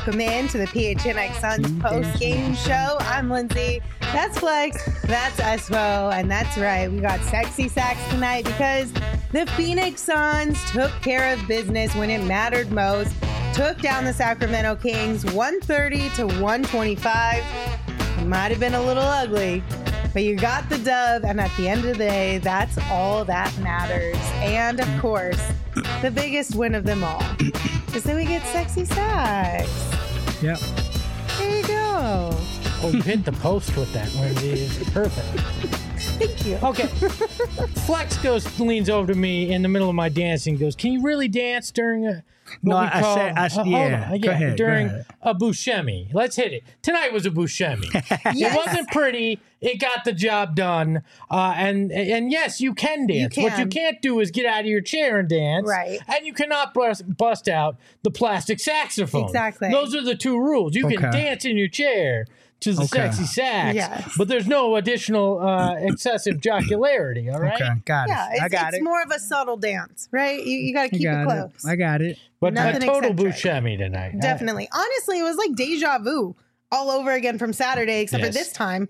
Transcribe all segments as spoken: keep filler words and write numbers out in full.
welcome in to the P H N X Suns post-game show. I'm Lindsay. That's Flex. That's Espo. And that's right, we got sexy sacks tonight because the Phoenix Suns took care of business when it mattered most. Took down the Sacramento Kings one thirty to one twenty-five. It might have been a little ugly, but you got the dub, and at the end of the day, that's all that matters. And, of course, the biggest win of them all is that we get sexy sacks. Yep. There you go. Oh, you hit the post with that, Lindsay. It's perfect. Thank you. Okay. Flex goes, leans over to me in the middle of my dancing, goes, "Can you really dance during a what No, we I call, said- I s- uh, hold yeah, on. go ahead, go during ahead. a Buscemi? Let's hit it. Tonight was a Buscemi. Yes. It wasn't pretty. It got the job done. Uh, and and yes, you can dance. You What you can. can't do is get out of your chair and dance. Right. And you cannot bust, bust out the plastic saxophone. Exactly. Those are the two rules. You can Okay. dance in your chair to the Okay. sexy sax, Yes. but there's no additional uh, excessive jocularity, all right? Okay, got Yeah, it. it's, I got it's it. more of a subtle dance, right? You, you got to I keep it got close. it. I got it. But a Nothing total eccentric. Buscemi tonight. Definitely. Honestly, it was like deja vu all over again from Saturday, except Yes. for this time,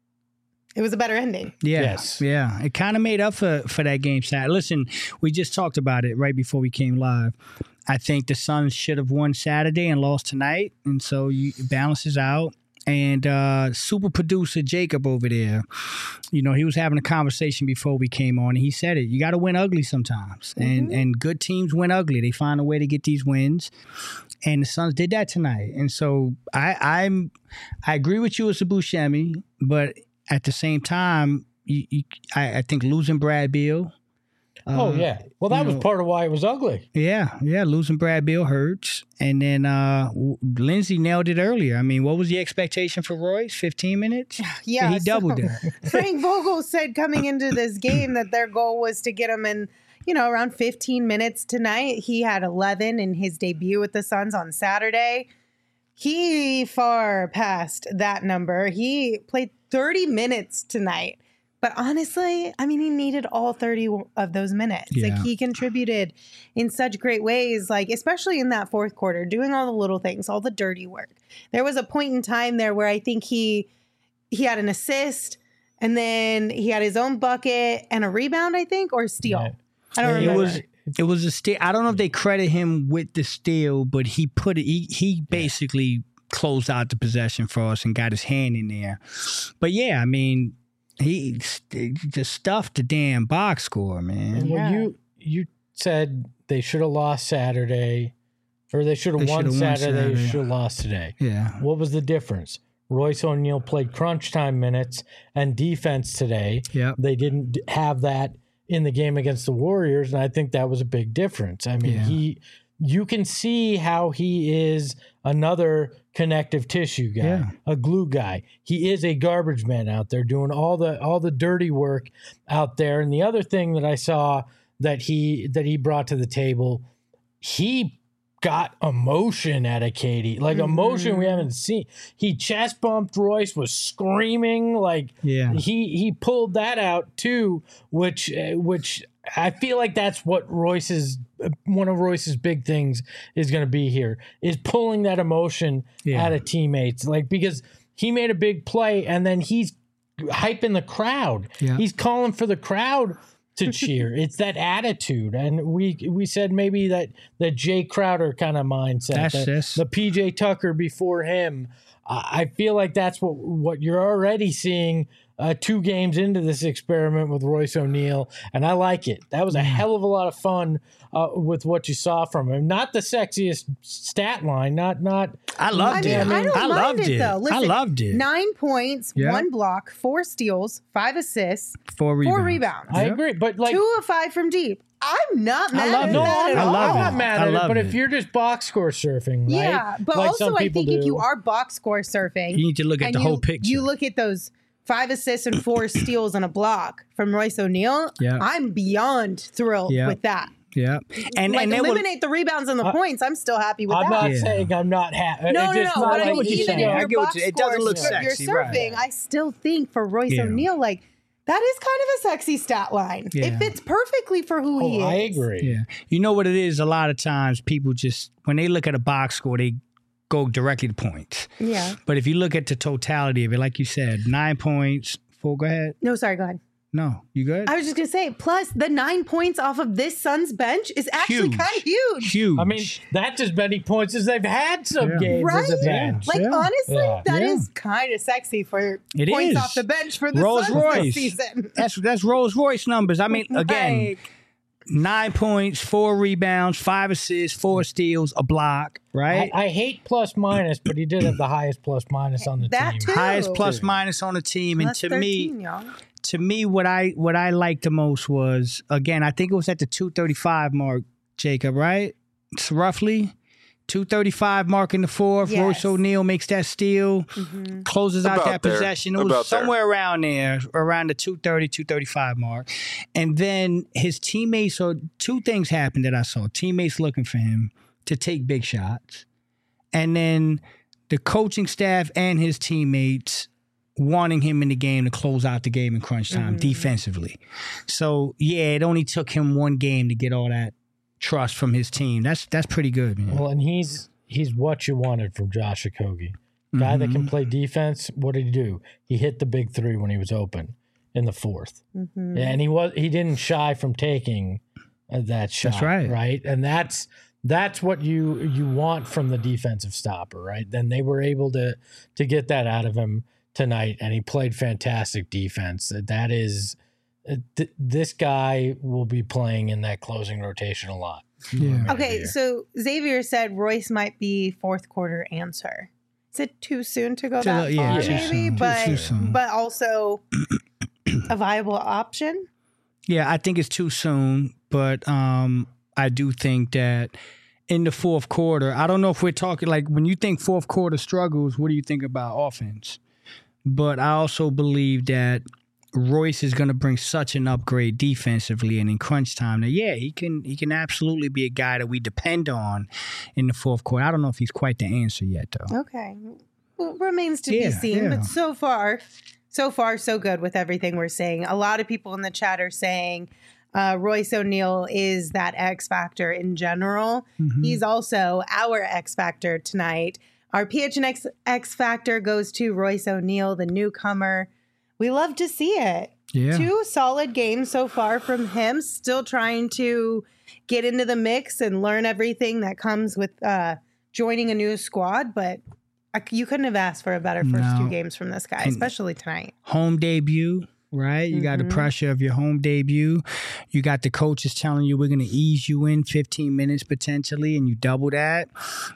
it was a better ending. Yeah, Yes. yeah. It kind of made up for, for that game Saturday. Listen, we just talked about it right before we came live. I think the Suns should have won Saturday and lost tonight, and so you, it balances out. And uh, super producer Jacob over there, you know, he was having a conversation before we came on, and he said it. You got to win ugly sometimes, and and good teams win ugly. They find a way to get these wins, and the Suns did that tonight. And so I I'm I agree with you as a Buscemi, but at the same time, you, you, I, I think losing Brad Beal. Oh, uh, yeah. Well, that you was know- part of why it was ugly. Yeah, yeah, losing Brad Beal hurts. And then uh, w- Lindsay nailed it earlier. I mean, what was the expectation for Royce? fifteen minutes? Yeah, he doubled so- it. Frank Vogel said coming into this game that their goal was to get him in, you know, around fifteen minutes tonight. He had eleven in his debut with the Suns on Saturday. He far passed that number. He played thirty minutes tonight. But honestly, I mean, he needed all thirty of those minutes. Yeah. Like, he contributed in such great ways, like, especially in that fourth quarter, doing all the little things, all the dirty work. There was a point in time there where I think he he had an assist, and then he had his own bucket and a rebound, I think, or a steal. Yeah. I don't Yeah, It remember. was it was a steal. I don't know if they credit him with the steal, but he put it. He he basically closed out the possession for us and got his hand in there. But yeah, I mean, he just stuffed the damn box score, man. Well, Yeah. you you said they should have lost Saturday, or they should have They won should have won Saturday, they Saturday. should have lost today. Yeah. What was the difference? Royce O'Neal played crunch time minutes and defense today. Yep. They didn't d- have that in the game against the Warriors, and I think that was a big difference. I mean, Yeah. he you can see how he is another connective tissue guy, Yeah. a glue guy. He is a garbage man out there doing all the all the dirty work out there. And the other thing that I saw that he that he brought to the table, he got emotion out of Katie, like emotion we haven't seen. He chest bumped Royce, was screaming, like Yeah. he he pulled that out too, which uh, which I feel like that's what Royce's one of Royce's big things is going to be here, is pulling that emotion Yeah. out of teammates, like because he made a big play and then he's hyping the crowd. Yeah. He's calling for the crowd to cheer. It's that attitude, and we we said maybe that that Jay Crowder kind of mindset, That's the, this. the P J Tucker before him. I I feel like that's what what you're already seeing uh, two games into this experiment with Royce O'Neal, and I like it. That was a hell of a lot of fun uh, with what you saw from him. Not the sexiest stat line, not not. I I loved mean, it. I don't I mind loved it, it. though. Listen, I loved it. Nine points, Yeah. one block, four steals, five assists, Four rebounds. four rebounds. I Yeah. agree, but like. Two of five from deep. I'm not mad love at it. No, that I'm, at I all. love I'm it. not mad I at it. love But it. if you're just box score surfing, right? Yeah, but like also some I people think if do. you are box score surfing, You need to look at and the you, whole picture. You look at those five assists and four steals and a block from Royce O'Neal. Yeah. I'm beyond thrilled Yeah. with that. Yeah. And like and they were, eliminate the rebounds and the I- points. I'm still happy with I'm that. not Yeah. saying I'm not happy. No, no, no. Just But not I get mean, what you're even saying. if I your get what box you- it doesn't score look sur- sexy, you're surfing, right. I still think for Royce Yeah. O'Neal, like that is kind of a sexy stat line. Yeah. It fits perfectly for who he Oh, is. I agree. yeah. You know what it is? A lot of times people just, when they look at a box score, they go directly to points. Yeah. But if you look at the totality of it, like you said, nine points, four, go ahead. No, sorry, go ahead. No, you good? I was just going to say, plus the nine points off of this Suns bench is actually Huge. kind of huge. Huge. I mean, that's as many points as they've had some Yeah. games Right? as a bench. Like, Yeah. honestly, Yeah. that Yeah. is kind of sexy for It points is. off the bench for the Rolls Suns Royce. this season. That's that's Rolls Royce numbers. I mean, again, Like, nine points, four rebounds, five assists, four steals, a block, right? I, I hate plus minus, but he did have the highest plus minus on the That team. too. Highest plus minus on the team, and plus to thirteen, me, y'all. to me, what I what I liked the most was, again, I think it was at the two thirty-five mark, Jacob, right? It's roughly two thirty-five mark in the fourth. Yes. Royce O'Neal makes that steal, Mm-hmm. closes out About that there. possession. It was About there. somewhere around there, around the two thirty, two thirty-five mark. And then his teammates, so two things happened that I saw. Teammates looking for him to take big shots. And then the coaching staff and his teammates wanting him in the game to close out the game in crunch time defensively. So, yeah, it only took him one game to get all that trust from his team. That's that's pretty good, man. Well, and he's he's what you wanted from Josh Okogie. Guy that can play defense. What did he do? He hit the big three when he was open in the fourth, Mm-hmm. and he was he didn't shy from taking uh, that shot. right. right, and that's that's what you you want from the defensive stopper, right? Then they were able to to get that out of him tonight, and he played fantastic defense. That is, uh, th- this guy will be playing in that closing rotation a lot. Yeah. Okay, so Xavier said Royce might be fourth quarter answer. Is it too soon to go Too- that yeah, far, too maybe? soon. Too- But too soon. but also a viable option. Yeah, I think it's too soon, but um, I do think that in the fourth quarter, I don't know if we're talking like when you think fourth quarter struggles, what do you think about offense? But I also believe that Royce is going to bring such an upgrade defensively and in crunch time that yeah, he can he can absolutely be a guy that we depend on in the fourth quarter. I don't know if he's quite the answer yet though. Okay, well, remains to Yeah, be seen. yeah. But so far, so far, so good with everything we're saying. A lot of people in the chat are saying uh, Royce O'Neal is that X factor in general. Mhm. He's also our X factor tonight. Our P H N X X factor goes to Royce O'Neal, the newcomer. We love to see it. Yeah. Two solid games so far from him, still trying to get into the mix and learn everything that comes with uh, joining a new squad. But I, you couldn't have asked for a better first No. two games from this guy, And- especially tonight. Home debut, right? You got the Mhm. pressure of your home debut. You got the coaches telling you we're going to ease you in fifteen minutes potentially, and you double that.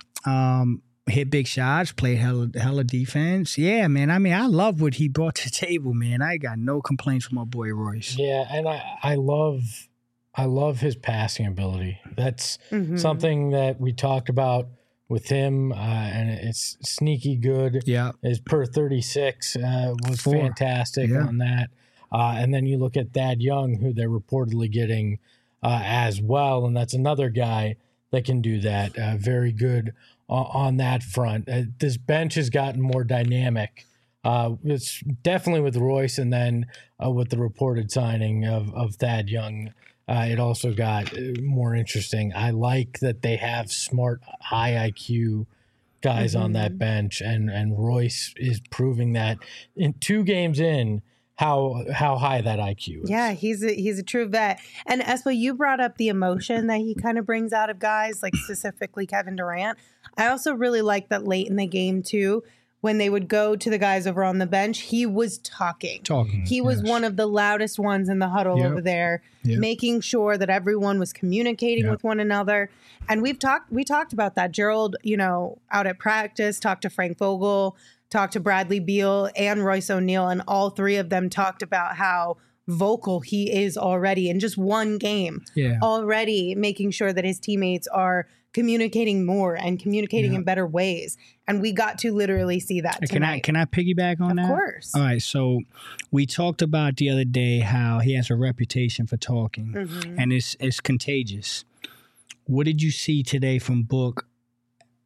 Um, hit big shots, play hella, hella defense. Yeah, man. I mean, I love what he brought to the table, man. I got no complaints from my boy Royce. Yeah, and I, I love I love his passing ability. That's Mhm. something that we talked about with him, uh, and it's sneaky good. Yeah. His per thirty-six uh, was Four. fantastic Yeah. on that. Uh, and then you look at Thad Young, who they're reportedly getting uh, as well, and that's another guy that can do that. Uh, very good on, on that front. Uh, this bench has gotten more dynamic. Uh, it's definitely with Royce, and then uh, with the reported signing of, of Thad Young, uh, it also got uh, more interesting. I like that they have smart, high I Q guys on that bench, and and Royce is proving that in two games in how how high that I Q is. Yeah, he's a, he's a true vet. And Espo, you brought up the emotion that he kind of brings out of guys, like specifically Kevin Durant. I also really like that late in the game too, when they would go to the guys over on the bench, he was talking. Talking. He was yes. one of the loudest ones in the huddle Yep. over there, Yep. making sure that everyone was communicating Yep. with one another. And we've talked we talked about that. Gerald, you know, out at practice, talked to Frank Vogel, talked to Bradley Beal and Royce O'Neal, and all three of them talked about how vocal he is already in just one game. Yeah. Already making sure that his teammates are communicating more and communicating Yeah. in better ways. And we got to literally see that Can I tonight. can I piggyback on Of that? course. All right. So we talked about the other day how he has a reputation for talking, Mhm. and it's it's contagious. What did you see today from Book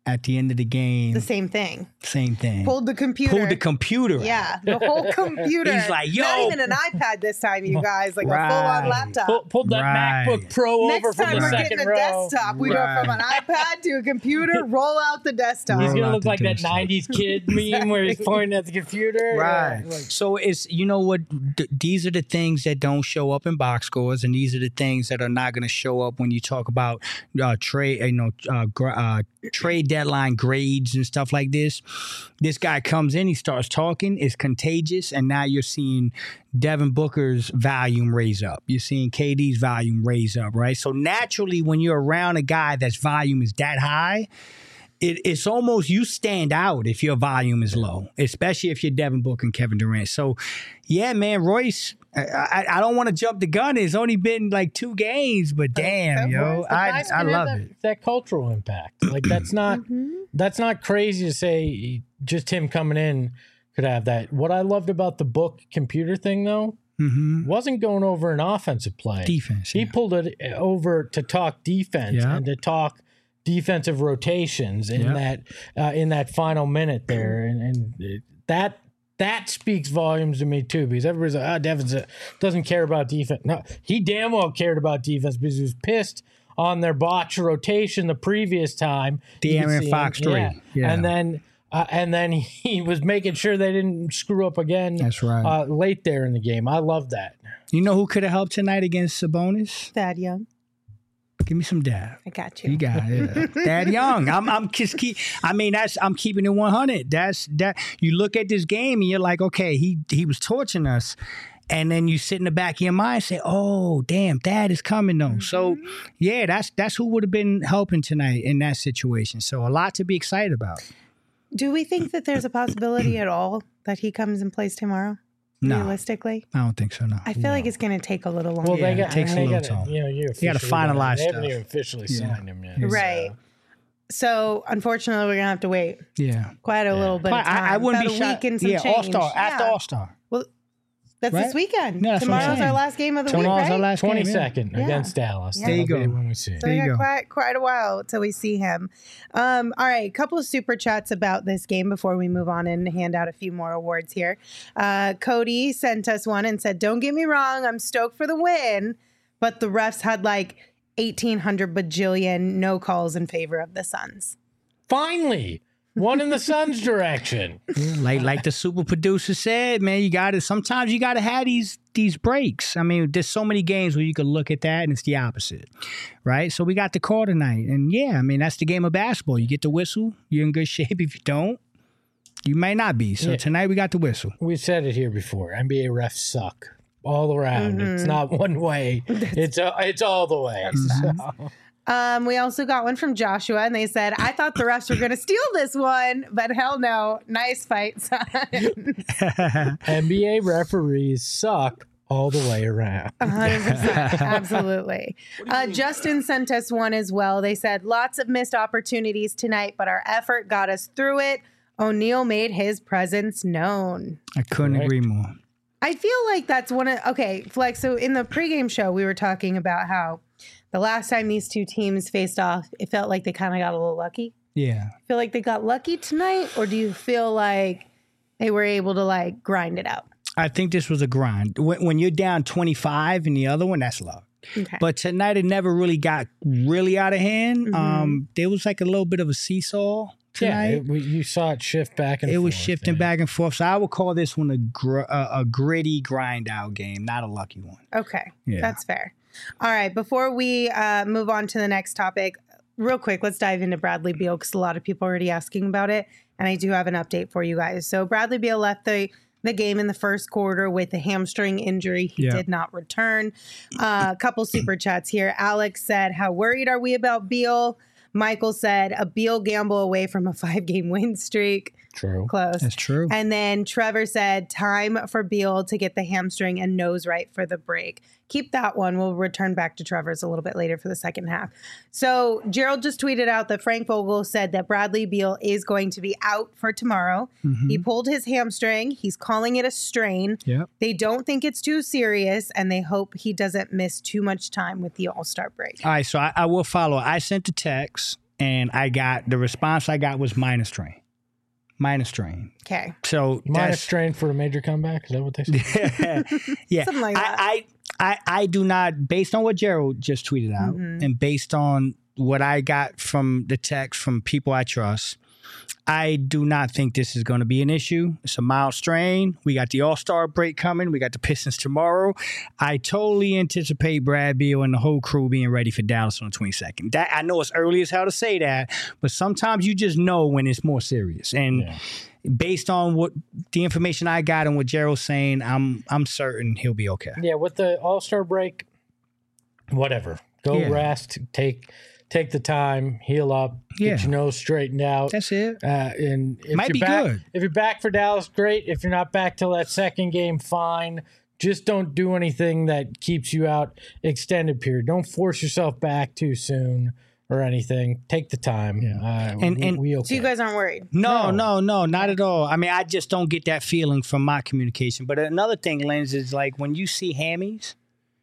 at the end of the game, The same thing. same thing. Pulled the computer. Pulled the computer. out. Yeah, the whole computer. He's like, yo. Not even an iPad this time, you guys. Like Right. a full-on laptop. Pull, pulled that Right. MacBook Pro Next over from time the we're second getting a row. desktop. We Right. go from an iPad to a computer, roll out the desktop. He's Roll gonna out look the like that desktop. nineties kid meme where he's pointing at the computer. Right. Yeah, like, So it's, you know what, th- these are the things that don't show up in box scores, and these are the things that are not going to show up when you talk about uh, trade, you know, uh, gra- uh, trade deadline grades and stuff like this. This guy comes in, he starts talking, it's contagious, and now you're seeing Devin Booker's volume raise up. You're seeing K D's volume raise up, right? So naturally, when you're around a guy that's volume is that high, It, it's almost you stand out if your volume is low, especially if you're Devin Booker and Kevin Durant. So, yeah, man, Royce, I, I, I don't want to jump the gun. It's only been like two games, but damn, yo, the I, guys I can have love that, it. that cultural impact. Like that's not that's not crazy to say. Just him coming in could have that. What I loved about the book computer thing, though, Mm-hmm. wasn't going over an offensive play. Defense. He Yeah. pulled it over to talk defense Yeah. and to talk defensive rotations in Yeah. that uh, in that final minute there, and, and that that speaks volumes to me too, because everybody's like, "Oh, Devin's a, doesn't care about defense." No, he damn well cared about defense because he was pissed on their botch rotation the previous time. You could De'Aaron see him- Fox three. yeah. Yeah. and then. Uh, and then he was making sure they didn't screw up again. That's right. Uh, late there in the game, I love that. You know who could have helped tonight against Sabonis? Thad Young. Give me some dad. I got you. You got it. Yeah. Dad Young. I'm I'm just keep I mean that's I'm keeping it one hundred. That's that you look at this game and you're like, okay, he he was torching us. And then you sit in the back of your mind and say, oh, damn, Dad is coming though. So yeah, that's that's who would have been helping tonight in that situation. So a lot to be excited about. Do we think that there's a possibility at all that he comes and plays tomorrow? No. Realistically? I don't think so, no. I feel like it's going to take a little longer. Well, Yeah, they it got, takes a they little gotta, time. you know, you You gotta officially finalize They haven't stuff. even officially Yeah. signed him yet. Right. so. So, unfortunately, we're going to have to wait Yeah. quite a little bit But of time. I, I wouldn't About be a shocked. week and some Yeah, change. All Star. After Yeah. All Star. Well, that's Right? this weekend. No, that's what I'm Tomorrow's our saying. last game of the Tomorrow's week, our right? last game. yeah. twenty-second Yeah. against Dallas. There you That'll be go. when we see it. So There we you got go. quite quite a while till we see him. Um, all right, a couple of super chats about this game before we move on and hand out a few more awards here. Uh, Cody sent us one and said, "Don't get me wrong, I'm stoked for the win, but the refs had like eighteen hundred bajillion no calls in favor of the Suns." Finally, one in the Suns' direction. Like like the super producer said, man, you got to sometimes you got to have these these breaks. I mean, there's so many games where you can look at that and it's the opposite, right? So we got the call tonight, and yeah, I mean that's the game of basketball. You get the whistle, you're in good shape. If you don't, you may not be. So Yeah. tonight we got the whistle. We've said it here before. N B A refs suck all around. Mm-hmm. It's not one way. It's uh, it's all the way. So, Um, we also got one from Joshua, and they said, "I thought the refs were going to steal this one, but hell no. Nice fight, son." N B A referees suck all the way around. one hundred percent. Absolutely. Uh, Justin sent us one as well. They said, "Lots of missed opportunities tonight, but our effort got us through it. O'Neal made his presence known." I couldn't Correct. agree more. I feel like that's one of, okay, Flex, so in the pregame show, we were talking about how the last time these two teams faced off, it felt like they kind of got a little lucky. Yeah. Feel like they got lucky tonight, or do you feel like they were able to like grind it out? I think this was a grind. When, when you're down twenty-five in the other one, that's luck. Okay. But tonight it never really got really out of hand. Mhm. Um, there was like a little bit of a seesaw Yeah, tonight. it, we, you saw it shift back and It forth. was shifting yeah. back and forth. So I would call this one a gr- a, a gritty grind out game, not a lucky one. Okay, Yeah. that's fair. All right, before we uh, move on to the next topic, real quick, let's dive into Bradley Beal because a lot of people are already asking about it, and I do have an update for you guys. So Bradley Beal left the the game in the first quarter with a hamstring injury. He Yeah. did not return. Uh, a couple super chats here. Alex said, "How worried are we about Beal?" Michael said, "A Beal gamble away from a five-game win streak." True. Close. That's true. And then Trevor said, "Time for Beal to get the hamstring and nose right for the break." Keep that one. We'll return back to Trevor's a little bit later for the second half. So Gerald just tweeted out that Frank Vogel said that Bradley Beal is going to be out for tomorrow. Mhm. He pulled his hamstring. He's calling it a strain. Yep. They don't think it's too serious, and they hope he doesn't miss too much time with the All-Star break. All right, so I, I will follow. I sent the text, and I got the response I got was minus strain, minus strain. Okay. So minus strain for a major comeback. Is that what they said? yeah, Something like that. I, I, I, I do not, based on what Gerald just tweeted out, Mm-hmm. and based on what I got from the text from people I trust, I do not think this is going to be an issue. It's a mild strain. We got the All-Star break coming. We got the Pistons tomorrow. I totally anticipate Brad Beal and the whole crew being ready for Dallas on the twenty-second. That I know it's early as hell to say that, but sometimes you just know when it's more serious. And Yeah. based on what the information I got and what Gerald's saying, I'm I'm certain he'll be okay. Yeah, with the All-Star break, whatever. Go Yeah. rest. Take take the time. Heal up. Yeah. Get your nose straightened out. That's it. Uh, and if Might you're be back, good. If you're back for Dallas, great. If you're not back till that second game, fine. Just don't do anything that keeps you out extended period. Don't force yourself back too soon or anything. Take the time. Yeah. Uh, And- we, and- we okay. So you guys aren't worried? No, No. no, no, not at all. I mean, I just don't get that feeling from my communication. But another thing, Lens, is like when you see hammies,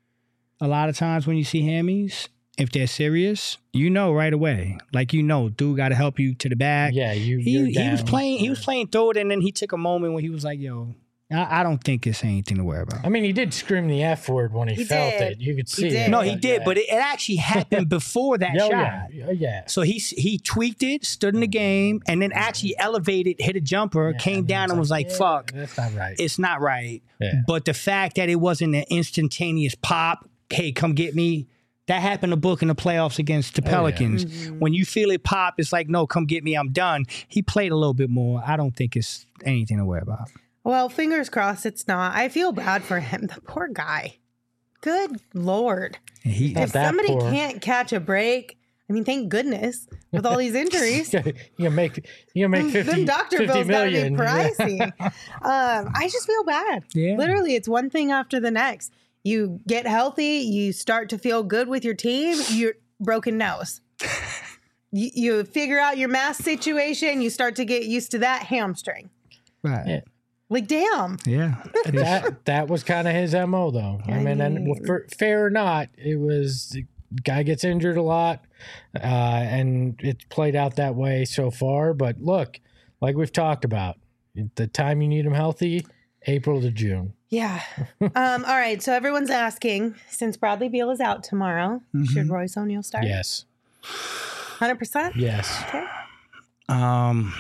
a lot of times when you see hammies, if they're serious, you know right away. Like, you know, dude got to help you to the back. yeah, you. He, you're he was down. playing. He was playing through it, and then he took a moment when he was like, "Yo, I, I don't think it's anything to worry about." I mean, he did scream the F word when he, He felt did. it. You could see did. it. No, he did, yeah. but it, it actually happened before that Oh, shot. yeah, yeah. So he he tweaked it, stood in the game, and then actually elevated, hit a jumper, Yeah, came and down, it's and was like, yeah, "Fuck, that's not right." it's not right." Yeah. But the fact that it wasn't an instantaneous pop, hey, come get me, that happened to Book in the playoffs against the Oh, yeah. Pelicans. Mm-hmm. When you feel it pop, it's like, no, come get me, I'm done. He played a little bit more. I don't think it's anything to worry about. Well, fingers crossed it's not. I feel bad for him. The poor guy. Good Lord. And he, Not If that somebody poor. can't catch a break, I mean, thank goodness with all these injuries. you gonna make you gonna make fifty, Them doctor 50 bills gotta be million. pricey. um, I just feel bad. Yeah. Literally, it's one thing after the next. You get healthy, you start to feel good with your team, you're broken nose. you, you figure out your mask situation, you start to get used to that hamstring. right. Yeah. Like, damn. Yeah. that that was kind of his M O though. I I mean, and well, mean- for, fair or not, it was the guy gets injured a lot, uh, and it's played out that way so far. But look, like we've talked about, the time you need him healthy, April to June. Yeah. um, all right. So everyone's asking, since Bradley Beal is out tomorrow, should Royce O'Neal start? Yes, one hundred percent? yes. Okay. Um,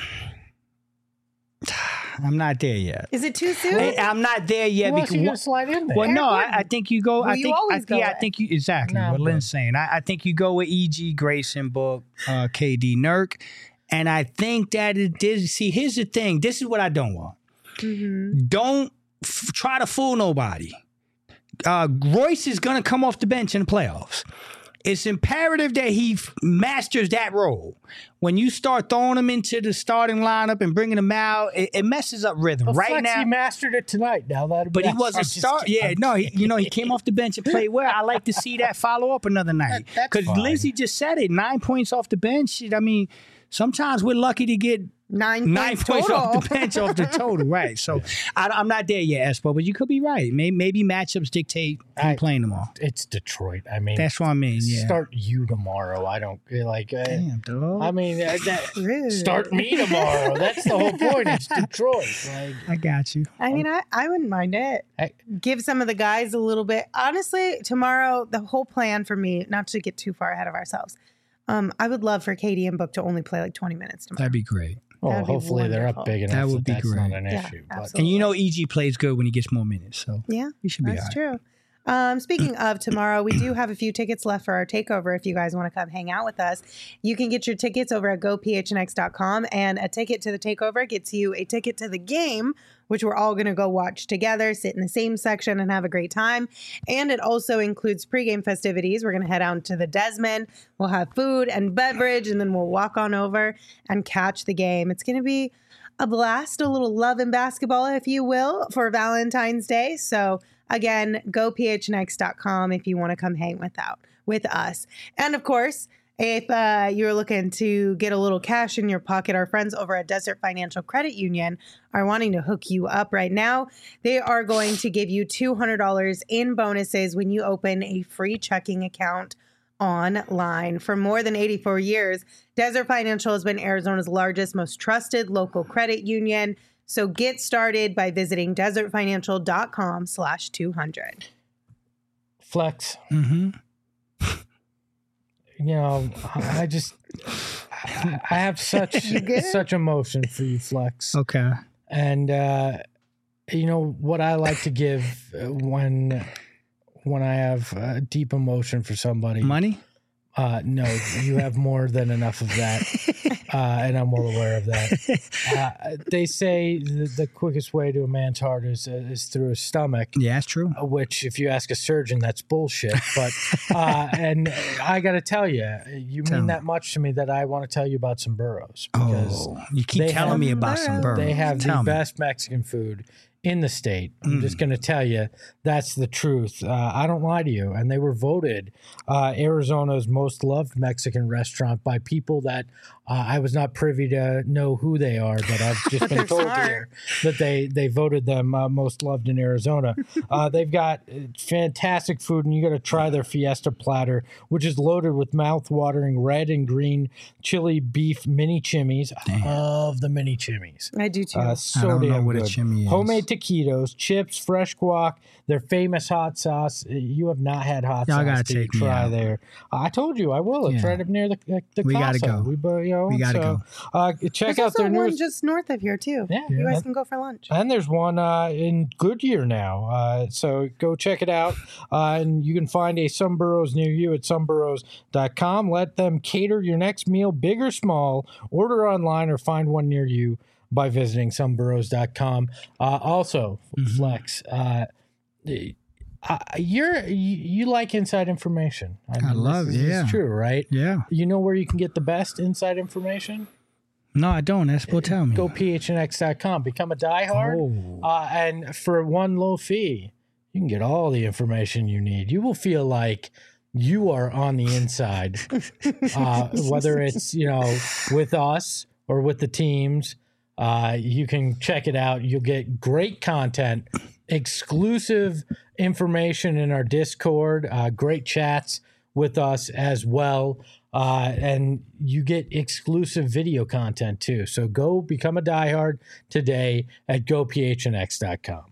I'm not there yet. Is it too soon? Hey, I'm not there yet Who else because you gonna slide in there? well, no, Eric I, I think you go. Well, I you think, always I, go yeah, I with. think you exactly Nah, what but- Lynn's saying. I, I think you go with E G, Grayson, Book, uh, K D, Nurk, and I think that it is. See, here's the thing. This is what I don't want. Mhm. Don't f- try to fool nobody. Uh, Royce is gonna come off the bench in the playoffs. It's imperative that he f- masters that role. When you start throwing him into the starting lineup and bringing him out, it, it messes up rhythm. Well, right Flex, now, he mastered it tonight. Now that, but he wasn't start. Yeah, no, he, you know, he came off the bench and played well. I like to see that follow up another night That- that's because fine. Lindsay just said it. Nine points off the bench. I mean, sometimes we're lucky to get Nine, nine points points total. off the bench off the total, right? So I, I'm not there yet, Espo, but you could be right. Maybe, maybe matchups dictate him I- playing them all. It's Detroit. I mean, That's what I mean. Yeah. start you tomorrow. I don't like. Uh, Damn, dog. I mean, uh, that, Rude. start me tomorrow. That's the whole point. It's Detroit. Like, I got you. I mean, I, I wouldn't mind it. I- Give some of the guys a little bit. Honestly, tomorrow, the whole plan for me, not to get too far ahead of ourselves, um, I would love for Katie and Book to only play like twenty minutes tomorrow. That'd be great. well, That'd be hopefully they're up wonderful. big enough That that, would be that's great. not an Yeah, issue. absolutely. And you know, E G plays good when he gets more minutes, so Yeah, we should be all that's right. true. Um, speaking of tomorrow, we do have a few tickets left for our takeover. If you guys want to come hang out with us, you can get your tickets over at go p h n x dot com. And a ticket to the takeover gets you a ticket to the game, which we're all going to go watch together, sit in the same section and have a great time. And it also includes pregame festivities. We're going to head out to the Desmond. We'll have food and beverage, and then we'll walk on over and catch the game. It's going to be a blast, a little love and basketball, if you will, for Valentine's Day. So again, go p h n x dot com if you want to come hang with out with us. And of course, if uh, you're looking to get a little cash in your pocket, our friends over at Desert Financial Credit Union are wanting to hook you up right now. They are going to give you two hundred dollars in bonuses when you open a free checking account online. For more than eighty-four years, Desert Financial has been Arizona's largest, most trusted local credit union. So get started by visiting desertfinancial.com slash 200. Flex. Mm-hmm. You know, I just, I I have such such emotion for you, Flex. Okay. And, uh, you know, what I like to give when when I have uh, deep emotion for somebody. Money? Uh, no, you have more than enough of that. Uh, and I'm well aware of that. Uh, they say the, the quickest way to a man's heart is, uh, is through his stomach. Yeah, that's true. Which, if you ask a surgeon, that's bullshit. But, uh, and I got to tell you, you Tell mean me. that much to me that I want to tell you about some burros. Because Oh, you keep they telling have- me about some burgers. they have Tell the me. best Mexican food in the state. I'm Mm. just going to tell you, that's the truth. Uh, I don't lie to you. And they were voted uh, Arizona's most loved Mexican restaurant by people that uh, I was not privy to know who they are, but I've just been they're told smart. here that they, they voted them uh, most loved in Arizona. Uh, they've got uh, fantastic food, and you got to try their Fiesta platter, which is loaded with mouth-watering red and green chili beef mini chimneys. I love the mini chimneys. I do too. Uh, I so don't know damn what a good. chimney is. Homemade taquitos, chips, fresh guac, their famous hot sauce. You have not had hot Y'all sauce. gotta till you take me try out. there. I told you I will. It's Yeah. right up near the the, the We gotta Casa. go. We, bo- you know, We gotta so, Uh, check There's out also their one newest. just north of here too. Yeah, You guys and- can go for lunch. and there's one uh, in Goodyear now. Uh, so go check it out. Uh, and you can find a Some Burros near you at some burros dot com. Let them cater your next meal, big or small. Order online or find one near you by visiting some burros dot com. Uh, also, Mhm. Flex, uh, uh, you're, you, you like inside information. I love- this is, yeah. It's true, right? Yeah. You know where you can get the best inside information? No, I don't. That's what tell me. Go p h n x dot com. Become a diehard. Oh. Uh, and for one low fee, you can get all the information you need. You will feel like you are on the inside, uh, whether it's, you know, with us or with the teams. Uh, you can check it out. You'll get great content, exclusive information in our Discord, uh, great chats with us as well. Uh, and you get exclusive video content too. So go become a diehard today at go p h n x dot com.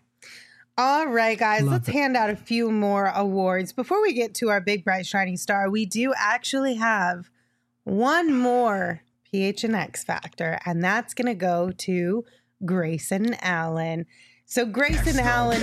All right, guys, Love let's it. hand out a few more awards. Before we get to our big, bright, shining star, we do actually have one more P H N X factor, and that's going to go to Grayson Allen. So Grayson Allen,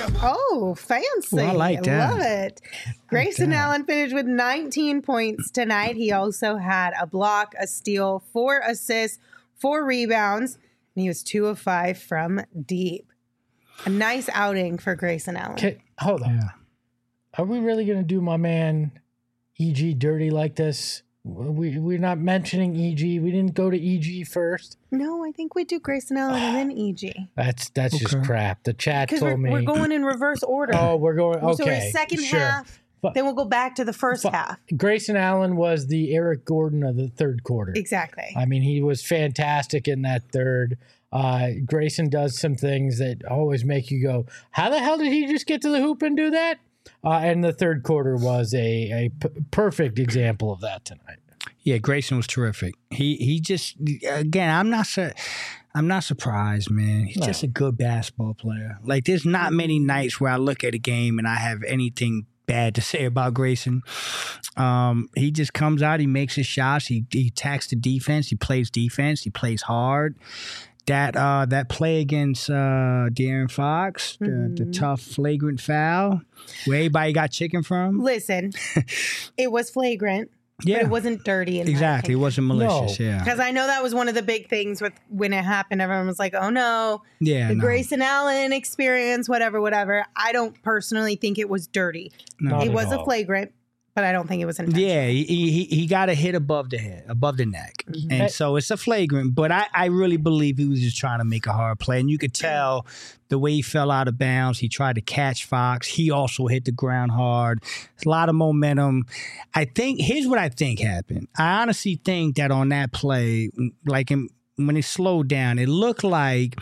oh, fancy. Ooh, I like that. Love it. Grayson that. Allen finished with nineteen points tonight. He also had a block, a steal, four assists, four rebounds, and he was two of five from deep. A nice outing for Grayson Allen. Okay, hold on. Yeah. Are we really going to do my man E G dirty like this? We, we're not mentioning E G. We didn't go to E G first. No, I think we do Grayson Allen and then E G. That's that's just Okay. crap. The chat Because told we're, me. we're going in reverse order. Oh, we're going. Okay, So we're second sure. half, But- then we'll go back to the first but- half. Grayson Allen was the Eric Gordon of the third quarter. Exactly. I mean, he was fantastic in that third. Uh, Grayson does some things that always make you go, how the hell did he just get to the hoop and do that? Uh, and the third quarter was a, a p- perfect example of that tonight. Yeah, Grayson was terrific. He he just again, I'm not su- I'm not surprised, man. He's No. just a good basketball player. Like there's not many nights where I look at a game and I have anything bad to say about Grayson. Um, he just comes out, he makes his shots, he he attacks the defense, he plays defense, he plays hard. That uh, that play against uh, De'Aaron Fox, the, the Mhm. tough flagrant foul, where everybody got chicken from. Listen, it was flagrant, Yeah, but it wasn't dirty. In exactly. It wasn't malicious. Yeah, Because I know that was one of the big things with when it happened. Everyone was like, oh no, yeah. the no, Grayson Allen experience, whatever, whatever. I don't personally think it was dirty. no. Not It at was a all. flagrant, but I don't think it was intentional. Yeah, he, he he got a hit above the head, above the neck, Mhm. and Hey. so it's a flagrant. But I, I really believe he was just trying to make a hard play, and you could tell the way he fell out of bounds. He tried to catch Fox. He also hit the ground hard. A lot of momentum. I think here's what I think happened. I honestly think that on that play, like in, when it slowed down, it looked like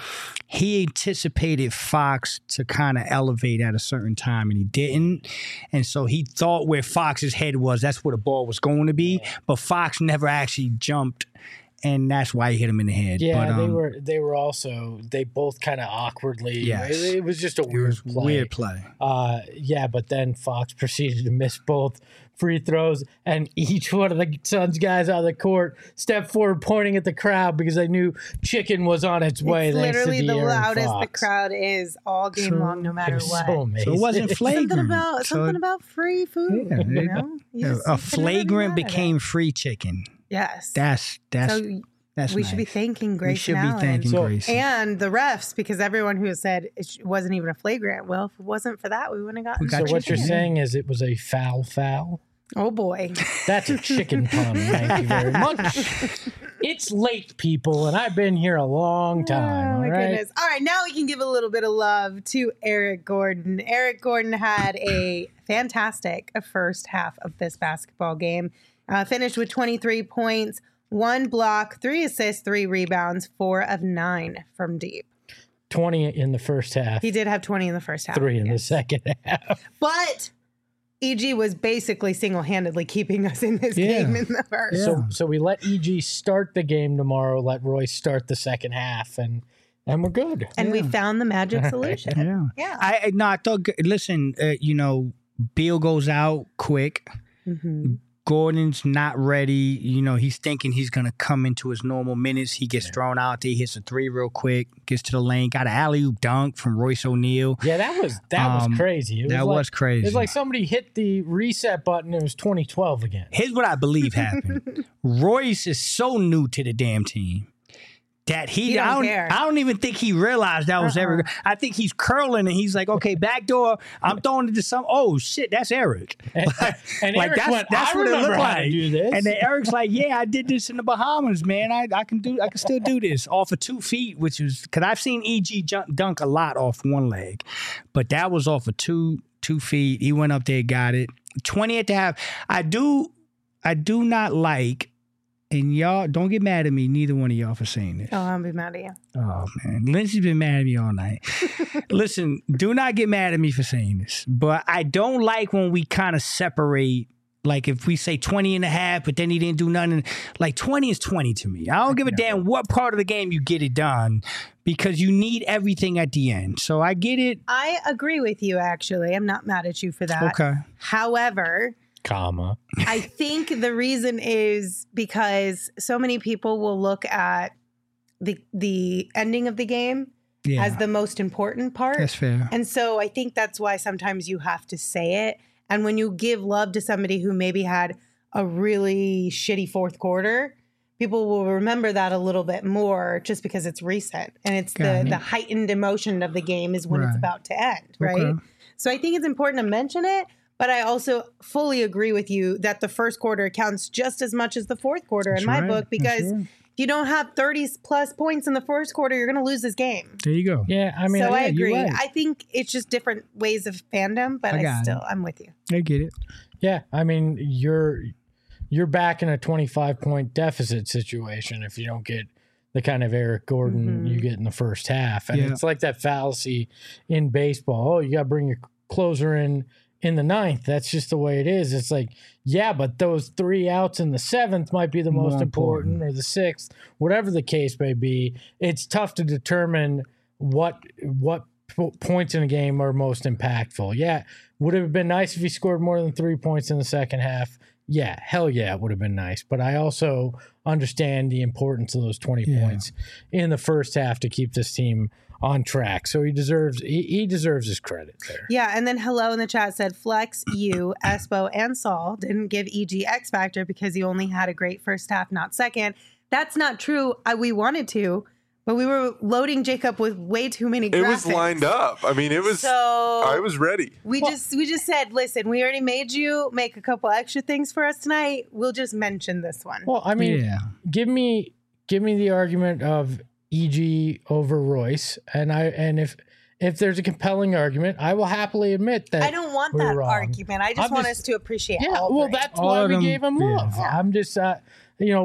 he anticipated Fox to kind of elevate at a certain time, and he didn't. And so he thought where Fox's head was, that's where the ball was going to be. Yeah. But Fox never actually jumped, and that's why he hit him in the head. Yeah, but, um, they were they were also they both kind of awkwardly. Yes. It, it was just a weird play. Weird play. Uh, yeah, but then Fox proceeded to miss both free throws, and each one of the Suns guys on the court stepped forward, pointing at the crowd because they knew chicken was on its way. It's literally the De'Aaron loudest Fox. the crowd is all game So, long, no matter It was what. so amazing. So it wasn't flagrant. Something about So- something about free food. Yeah, you there you know? You Yeah, just- a you can never be flagrant mad at became it. free chicken. Yes. That's that's so that's we nice. should be thanking Grace We should and be Allen. thanking So- Grace. And the refs, because everyone who has said it sh- wasn't even a flagrant. Well, if it wasn't for that, we wouldn't have gotten. We got So free what you're chicken. saying is it was a foul foul? Oh boy. That's a chicken pun. Thank you very much. It's late, people, and I've been here a long time. Oh my all right? goodness. All right, now we can give a little bit of love to Eric Gordon. Eric Gordon had a fantastic first half of this basketball game. Uh, finished with twenty-three points, one block, three assists, three rebounds, four of nine from deep. twenty in the first half, He did have twenty in the first half. three in the second half. But E G was basically single-handedly keeping us in this Yeah. game in the first. Yeah. So so we let E G start the game tomorrow, let Royce start the second half, and and we're good. And we Yeah. found the magic solution. Yeah. Yeah. I I- no, I thought. Listen, uh, you know, Beal goes out quick. Mm-hmm. Gordon's not ready. You know, he's thinking he's gonna come into his normal minutes. He gets thrown out there, hits a three real quick, gets to the lane, got an alley oop dunk from Royce O'Neal. Yeah, that was that Um, was crazy. It was That like, was crazy. It's like somebody hit the reset button. It was twenty twelve again. Here's what I believe happened. Royce is so new to the damn team that he, He don't I don't care. I don't even think he realized that was Uh-uh. ever. I think he's curling and he's like, okay, back door. I'm throwing it to some. Oh shit, that's Eric. And, and Like, Eric that's- went, that's I what it remember looked how to like. do this. And then Eric's like, yeah, I did this in the Bahamas, man. I, I can do I can still do this off of two feet, which was because I've seen E G jump, dunk a lot off one leg, but that was off of two two feet. He went up there, got it. twenty at the half. I do I do not like. And y'all, don't get mad at me, neither one of y'all for saying this. Oh, I'll be mad at you. Oh, man. Lindsay's been mad at me all night. Listen, do not get mad at me for saying this. But I don't like when we kind of separate, like if we say twenty and a half, but then he didn't do nothing. Like twenty is twenty to me. I don't give a damn what part of the game you get it done because you need everything at the end. So I get it. I agree with you, actually. I'm not mad at you for that. Okay. However, comma. I think the reason is because so many people will look at the the ending of the game Yeah. as the most important part. That's fair. And so I think that's why sometimes you have to say it. And when you give love to somebody who maybe had a really shitty fourth quarter, people will remember that a little bit more just because it's recent. And it's Got the, it. the heightened emotion of the game is when it's Right. about to end, right? Okay. So I think it's important to mention it. But I also fully agree with you that the first quarter counts just as much as the fourth quarter That's in my right. book, because That's right. if you don't have thirty plus points in the first quarter, you're going to lose this game. There you go. Yeah, I mean, so I yeah, you're agree. right. I think it's just different ways of fandom, but I I, got still, it. I'm with you. I get it. Yeah, I mean, you're you're back in a twenty-five point deficit situation if you don't get the kind of Eric Gordon Mhm. you get in the first half. And Yeah. it's like that fallacy in baseball. Oh, you got to bring your closer in in the ninth. That's just the way it is. It's like, yeah, but those three outs in the seventh might be the most More important, important. or the sixth, whatever the case may be. It's tough to determine what what po- points in a game are most impactful. Yeah, would it have been nice if he scored more than three points in the second half? Yeah, hell yeah, it would have been nice. But I also understand the importance of those twenty Yeah. points in the first half to keep this team on track. So he deserves he, he deserves his credit there. Yeah, and then hello in the chat said Flex, you, Espo, and Saul didn't give E G X Factor because he only had a great first half, not second. That's not true. I, we wanted to, but we were loading Jacob with way too many graphics. It was lined up. I mean, it was. So I was ready. we just we just said, listen, we already made you make a couple extra things for us tonight. We'll just mention this one. Well, I mean, Yeah. give me give me the argument of E G over Royce, and I and if if there's a compelling argument, I will happily admit that I don't want we're that wrong. argument. I just I'm want just- us to appreciate Yeah, all well, three. that's All why of we them, gave him yeah. love. I'm just, uh, you know,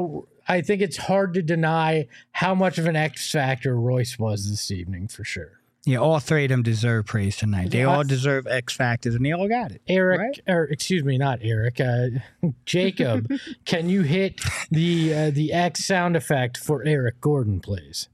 I think it's hard to deny how much of an X factor Royce was this evening for sure. Yeah, all three of them deserve praise tonight. They Yeah. all deserve X factors, and they all got it. Eric, Right? or excuse me, not Eric, uh, Jacob, can you hit the uh, the X sound effect for Eric Gordon, please?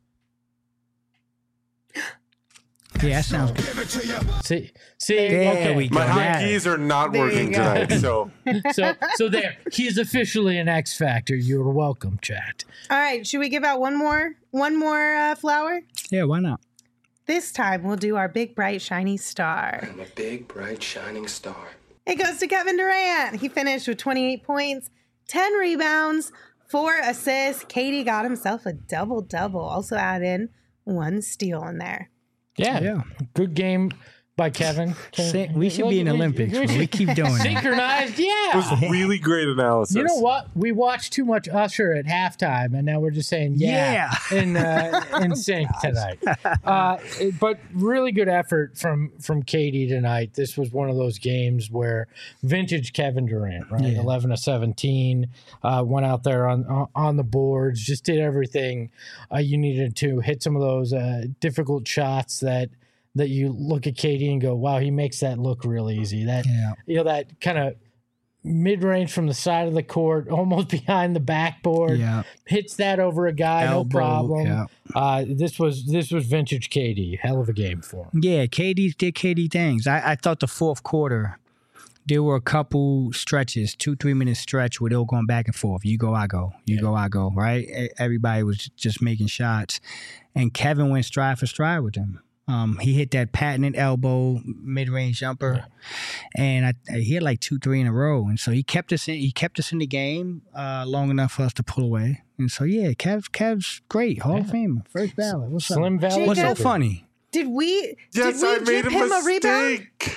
Yeah, that sounds good. See, see, There okay. we go. My Yeah. hotkeys are not There you working go. tonight, so So, so there, he is officially an X factor. You're welcome, chat. All right, should we give out one more one more uh, flower? Yeah, why not? This time we'll do our big bright shiny star. I'm a big, bright, shining star. It goes to Kevin Durant. He finished with twenty-eight points, ten rebounds, four assists. Katie got himself a double double. Also add in one steal in there. Yeah, Yeah. good game by Kevin. Say- we should be in Look, Olympics. we man. We should- keep doing it. synchronized. it Yeah. was really great analysis. You know what? We watched too much Usher at halftime, and now we're just saying yeah, in uh, in sync tonight. Uh, it- but really good effort from from Katie tonight. This was one of those games where vintage Kevin Durant, right? Yeah. eleven to seventeen, uh, went out there on on- on the boards, just did everything uh, you needed to, hit some of those uh, difficult shots that. That you look at Katie and go, wow, he makes that look real easy. That Yeah. you know, that kind of mid range from the side of the court, almost behind the backboard, Yeah. hits that over a guy, Elbow, no problem. yeah. Uh, this was this was vintage K D, hell of a game for him. Yeah, K D did K D things. I, I thought the fourth quarter, there were a couple stretches, two, three minute stretch where they were going back and forth. You go, I go. You go, I go, right? E- Everybody was just making shots. And Kevin went stride for stride with them. Um, he hit that patented elbow mid-range jumper, and I, he had like two, three in a row, and so he kept us in. He kept us in the game uh, long enough for us to pull away. And so yeah, Kev, Kev's great, Hall of Famer, first ballot. What's Slim up? Valley. What's so Jacob. funny? Did we yes, did we I made give a him a rebound? mistake.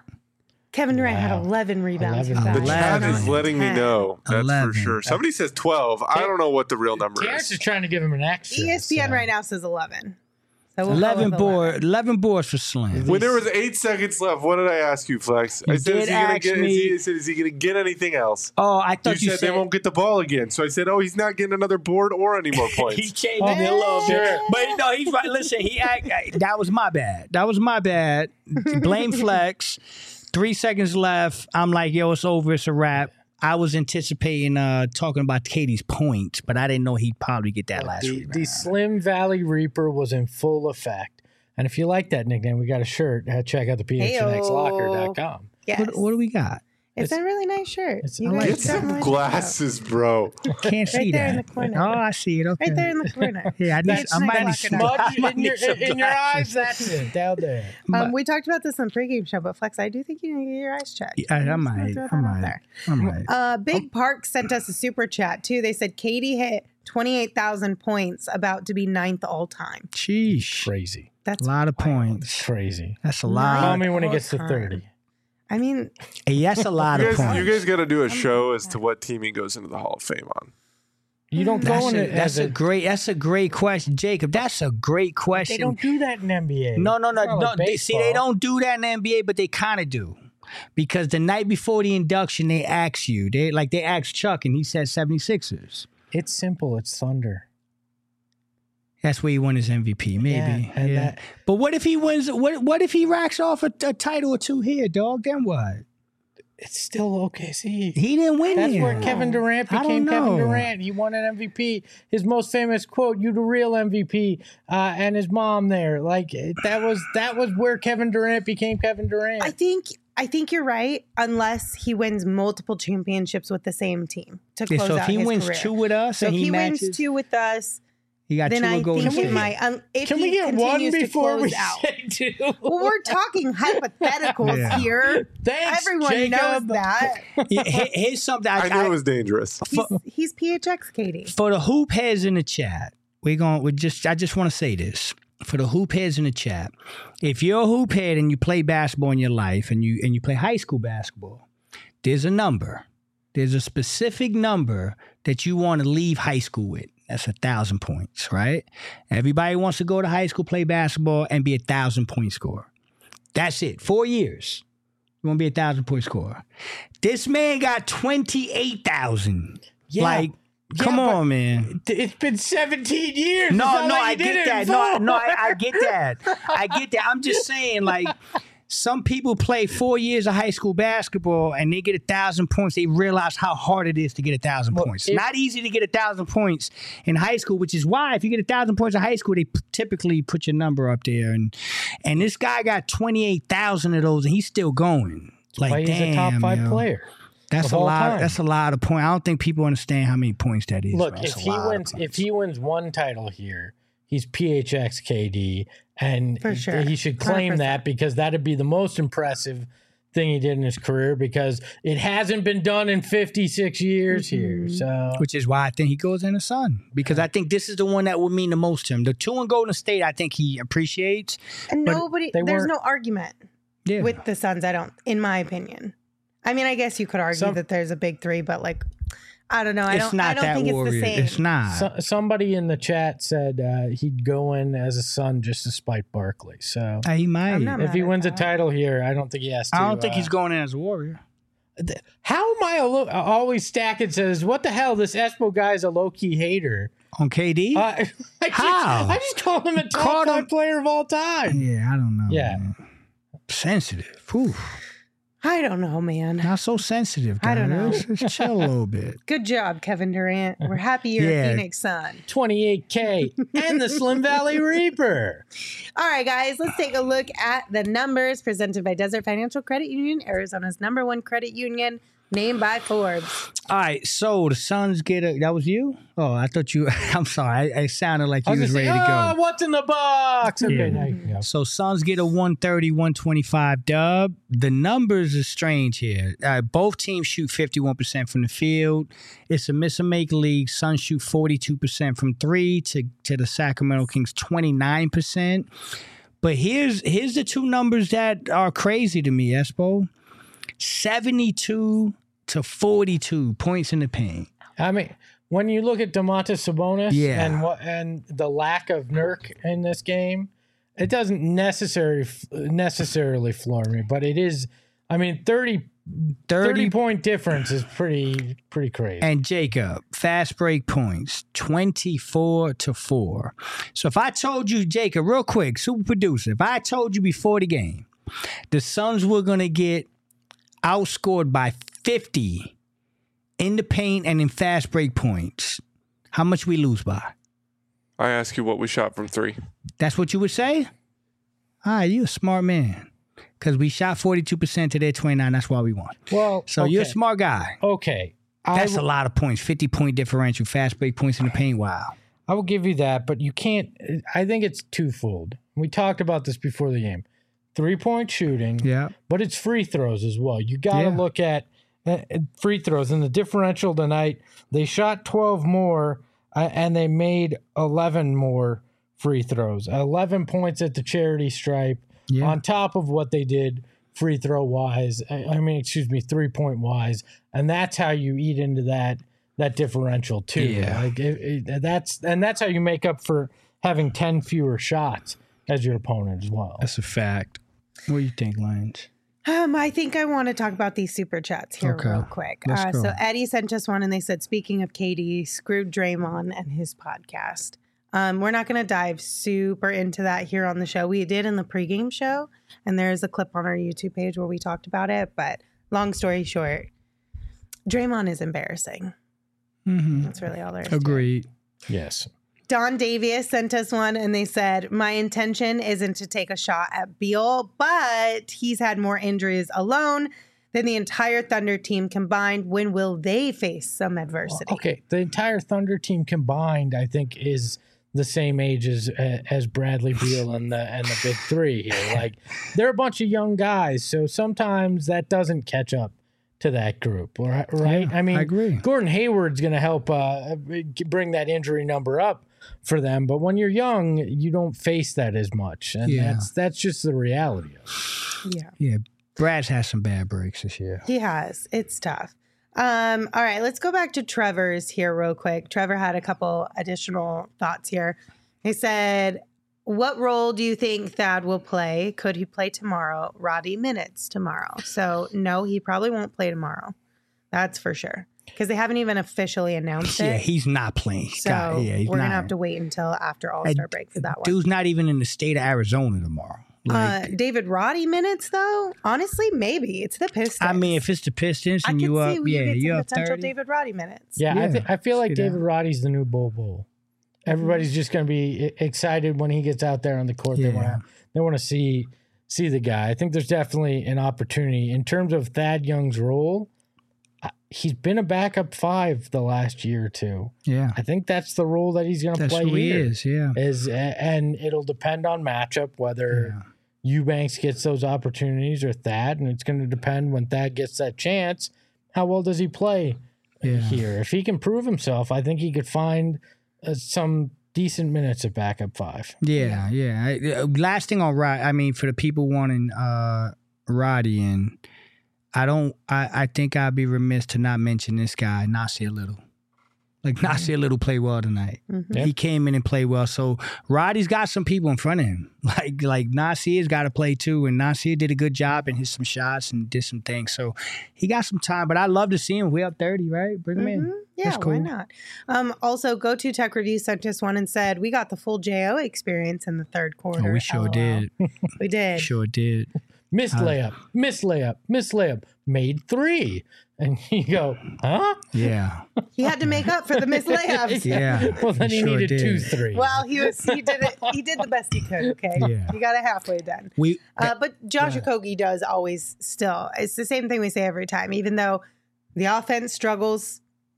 Kevin Durant Wow. had eleven rebounds. eleven. for The that. chat Eleven. is letting me know. That's Eleven. for sure. Somebody says twelve. I don't know what the real number Terrence is. is trying to give him an extra. E S P N so- right now says eleven. So we'll go eleven with board, eleven boards for Slim. When there was eight seconds left, what did I ask you, Flex? I You said, is did he gonna ask get? me- Is he, I said, is he gonna get anything else? Oh, I You, thought you, said, they won't get the ball again. So I said, oh, he's not getting another board or any more he points. changed it a little bit, Sure. but no, he's right. Listen, he act, that was my bad. That was my bad. Blame Flex. Three seconds left. I'm like, yo, it's over. It's a wrap. I was anticipating uh, talking about Katie's points, but I didn't know he'd probably get that last The, rebound. the Slim Valley Reaper was in full effect. And if you like that nickname, we got a shirt. Uh, check out the P H N X locker dot com. Yes. What, what do we got? It's, a really nice shirt. it's- You I guys like Get it. should some definitely check it out. glasses, bro. Can't see there in that. the corner. Oh, I see it. Okay. Right there in the corner. Yeah, I need. That's I might need nice. some. Smudge I might in your, need some in your eyes, glasses. that's it. Down there. Um, we talked about this on pregame show, but Flex, I do think you need to get your eyes checked. I, I I'm just gonna might. throw I that out might. there. I might. Uh, Big Park sent us a super chat too. They said Katie hit twenty-eight thousand points, about to be ninth all time. Sheesh. Crazy. That's A lot of wild. points. Crazy. That's a Nine. lot. Call me when it gets to all thirty. time. I mean, Hey, that's a lot You of guys, points. you guys got to do a show as to what team he goes into the Hall of Fame on. You don't go That's in a, it that's as a a. great. That's a great question, Jacob. That's a great question. They don't do that in N B A. No, no, no, It's not no. like they, see, they baseball. don't do that in the N B A, but they kind of do, because the night before the induction, they ask you. They like they asked Chuck, and he said seventy-sixers. It's simple. It's Thunder. That's where he won his M V P, maybe. Yeah, and Yeah. that- But what if he wins? What What if he racks off a, a title or two here, dog? Then what? It's still O K C. He didn't win. That's here. where Kevin Durant I don't became Kevin know. Durant. He won an M V P. His most famous quote, "You the real M V P," uh, and his mom there. Like that was that was where Kevin Durant became Kevin Durant. I think I think you're right, unless he wins multiple championships with the same team to Yeah, close so if out he his wins career. two with us, So and if he, he matches, wins two with us, he got then two I with Golden think it State. might. Um, if Can he we get one continues to before we close out. say two? Well, we're talking hypotheticals Yeah. here. Thanks, Everyone Jacob. knows that. Yeah, here- here's something I, I knew I- it was dangerous. He's, he's P H X, Katie. for the hoop heads in the chat. We're going. We just. I just want to say this for the hoop heads in the chat. If you're a hoop head and you play basketball in your life, and you and you play high school basketball, there's a number. There's a specific number that you want to leave high school with. That's a thousand points, right? Everybody wants to go to high school, play basketball, and be a thousand point scorer. That's it. Four years. You want to be a thousand point scorer. This man got twenty-eight thousand. Yeah. Like, Come Yeah, but on, man. It's been seventeen years. It's No, not no, like I you did get it that. in No, four. no, I, I get that. I get that. I'm just saying, like, some people play four years of high school basketball and they get a thousand points. They realize how hard it is to get a thousand Well, points. if- Not easy to get a thousand points in high school, which is why if you get a thousand points in high school, they p- typically put your number up there. And and this guy got twenty-eight thousand of those, and he's still going. Like, Why he's damn, a top five yo. player. That's of a all lot. time. That's a lot of points. I don't think people understand how many points that is. Look, man. if That's a he lot of wins, if points. he wins one title here, he's P H X K D, and For sure. he should claim one hundred percent. that because that'd be the most impressive thing he did in his career because it hasn't been done in fifty-six years here. So Which is why I think he goes in the Sun because I think this is the one that would mean the most to him. The two in Golden State, I think he appreciates. And But nobody, they there's weren't- no argument Yeah, with the Suns. I don't, in my opinion. I mean, I guess you could argue Some- that there's a big three, but like, I don't know. I it's don't. not I don't that think warrior. it's the same. It's not. so, somebody in the chat said uh, he'd go in as a Sun just to spite Barkley. So Uh, he might. I'm not if mad he at wins a that. title here, I don't think he has to. I don't think uh, he's going in as a warrior. th- How am I a lo- always stacking says, what the hell? This Espo guy's a low key hater. On K D? Uh, I, just, How? I just call him a top Called five him- player of all time. yeah, I don't know. Yeah. man. Sensitive. Whew. I don't know, man. Not so sensitive. I don't know. guys. Just chill a little bit. Good job, Kevin Durant. We're happy you're Yeah. a Phoenix Sun. twenty-eight K and the Slim Valley Reaper. All right, guys, let's take a look at the numbers presented by Desert Financial Credit Union, Arizona's number one credit union, named by Forbes. All right, so the Suns get a. That was you? Oh, I thought you. I'm sorry. I, I sounded like I you was, was gonna ready say, to go. oh, what's in the box? Okay, Yeah. now you can go. So Suns get a one thirty, one twenty-five dub. The numbers are strange here. Uh, both teams shoot fifty-one percent from the field. It's a miss and make league. Suns shoot forty-two percent from three to, to the Sacramento Kings twenty-nine percent. But here's here's the two numbers that are crazy to me, Espo. seventy-two to forty-two points in the paint. I mean, when you look at Domantas Sabonis Yeah. and what and the lack of Nurk in this game, it doesn't necessarily necessarily floor me, but it is. I mean, thirty, thirty, thirty point difference is pretty pretty crazy. And Jacob, fast break points, twenty-four to four. So if I told you, Jacob, real quick, super producer, if I told you before the game, the Suns were going to get outscored by fifty in the paint and in fast break points, how much we lose by? I ask you what we shot from three. That's what you would say? All right, you a smart man. Because we shot forty-two percent to their twenty-nine. That's why we won. well, So okay. you're a smart guy. Okay, That's I, a lot of points. fifty-point differential, fast break points in the paint. Wow. I will give you that, but you can't. I think it's twofold. We talked about this before the game. Three point shooting, Yeah. but it's free throws as well. You got to Yeah. look at uh, free throws. And the differential tonight, they shot twelve more uh, and they made eleven more free throws. eleven points at the charity stripe Yeah. on top of what they did free throw wise. I, I mean, excuse me, three point wise. And that's how you eat into that that differential too. Yeah. Like it, it, that's and that's how you make up for having ten fewer shots as your opponent as well. That's a fact. What do you think, Lions? Um, I think I want to talk about these super chats here Okay. real quick. Let's Uh, go. so Eddie sent us one, and they said, speaking of K D, screwed Draymond and his podcast. Um, we're not going to dive super into that here on the show. We did in the pregame show, and there is a clip on our YouTube page where we talked about it. But long story short, Draymond is embarrassing. Mm-hmm. That's really all there is to it. Agreed. Yes. Don Davies sent us one, and they said, my intention isn't to take a shot at Beal, but he's had more injuries alone than the entire Thunder team combined. When will they face some adversity? Okay, the entire Thunder team combined, I think, is the same age as as Bradley Beal and the and the big three here. Like they're a bunch of young guys, so sometimes that doesn't catch up to that group, right? Right? Yeah, I mean, I agree. Gordon Hayward's going to help uh, bring that injury number up for them, but when you're young, you don't face that as much, and Yeah. that's that's just the reality of it. Yeah, Yeah. Brad's had some bad breaks this year. he has. It's tough. Um, all right, let's go back to Trevor's here real quick. Trevor had a couple additional thoughts here. He said, what role do you think Thad will play? Could he play tomorrow? Roddy minutes tomorrow. So no, he probably won't play tomorrow. That's for sure. because they haven't even officially announced Yeah, it. he's not playing. So God, yeah, he's we're not. gonna have to wait until after All Star break for that one. Dude's not even in the state of Arizona tomorrow. Like, Uh, David Roddy minutes though, honestly, maybe it's the Pistons. I mean, if it's the Pistons I and could you see up, we yeah, could get you some up potential thirty. David Roddy minutes. Yeah, I, Yeah. th- I feel like See that. David Roddy's the new Bol Bol. Everybody's just going to be e- excited when he gets out there on the court. They Yeah. want to they want to see see the guy. I think there's definitely an opportunity in terms of Thad Young's role. uh, He's been a backup five the last year or two. Yeah, I think that's the role that he's going to that's play who he here. is. Yeah, Is and it'll depend on matchup whether Yeah. Eubanks gets those opportunities or Thad, and it's going to depend when Thad gets that chance. How well does he play Yeah. here? If he can prove himself, I think he could find uh, some decent minutes at backup five. yeah, yeah. I- uh, Last thing on Rod, I mean, for the people wanting uh, Roddy in, I don't. I, I think I'd be remiss to not mention this guy, Nasir Little. Like Nasir Little played well tonight. Mhm. Yeah. He came in and played well. So Roddy's got some people in front of him. Like like Nasir's got to play too, and Nasir did a good job and hit some shots and did some things. So he got some time. But I'd love to see him. We up thirty, right? Bring him Mhm. in. Yeah, That's why cool. not? Um, also, Go To Tech Review sent us one and said we got the full J O experience in the third quarter. Oh, we sure LOL. did. We did. Sure did. Missed Uh, layup, missed layup, missed layup, made three. And you go, huh? Yeah. He had to make up for the missed layups. Yeah. Well, then he Sure needed did. two threes. Well, he was he did it. He did the best he could. Okay, Yeah. he got it halfway done. We Uh, but Josh Okogie does always still. It's the same thing we say every time. Even though the offense struggles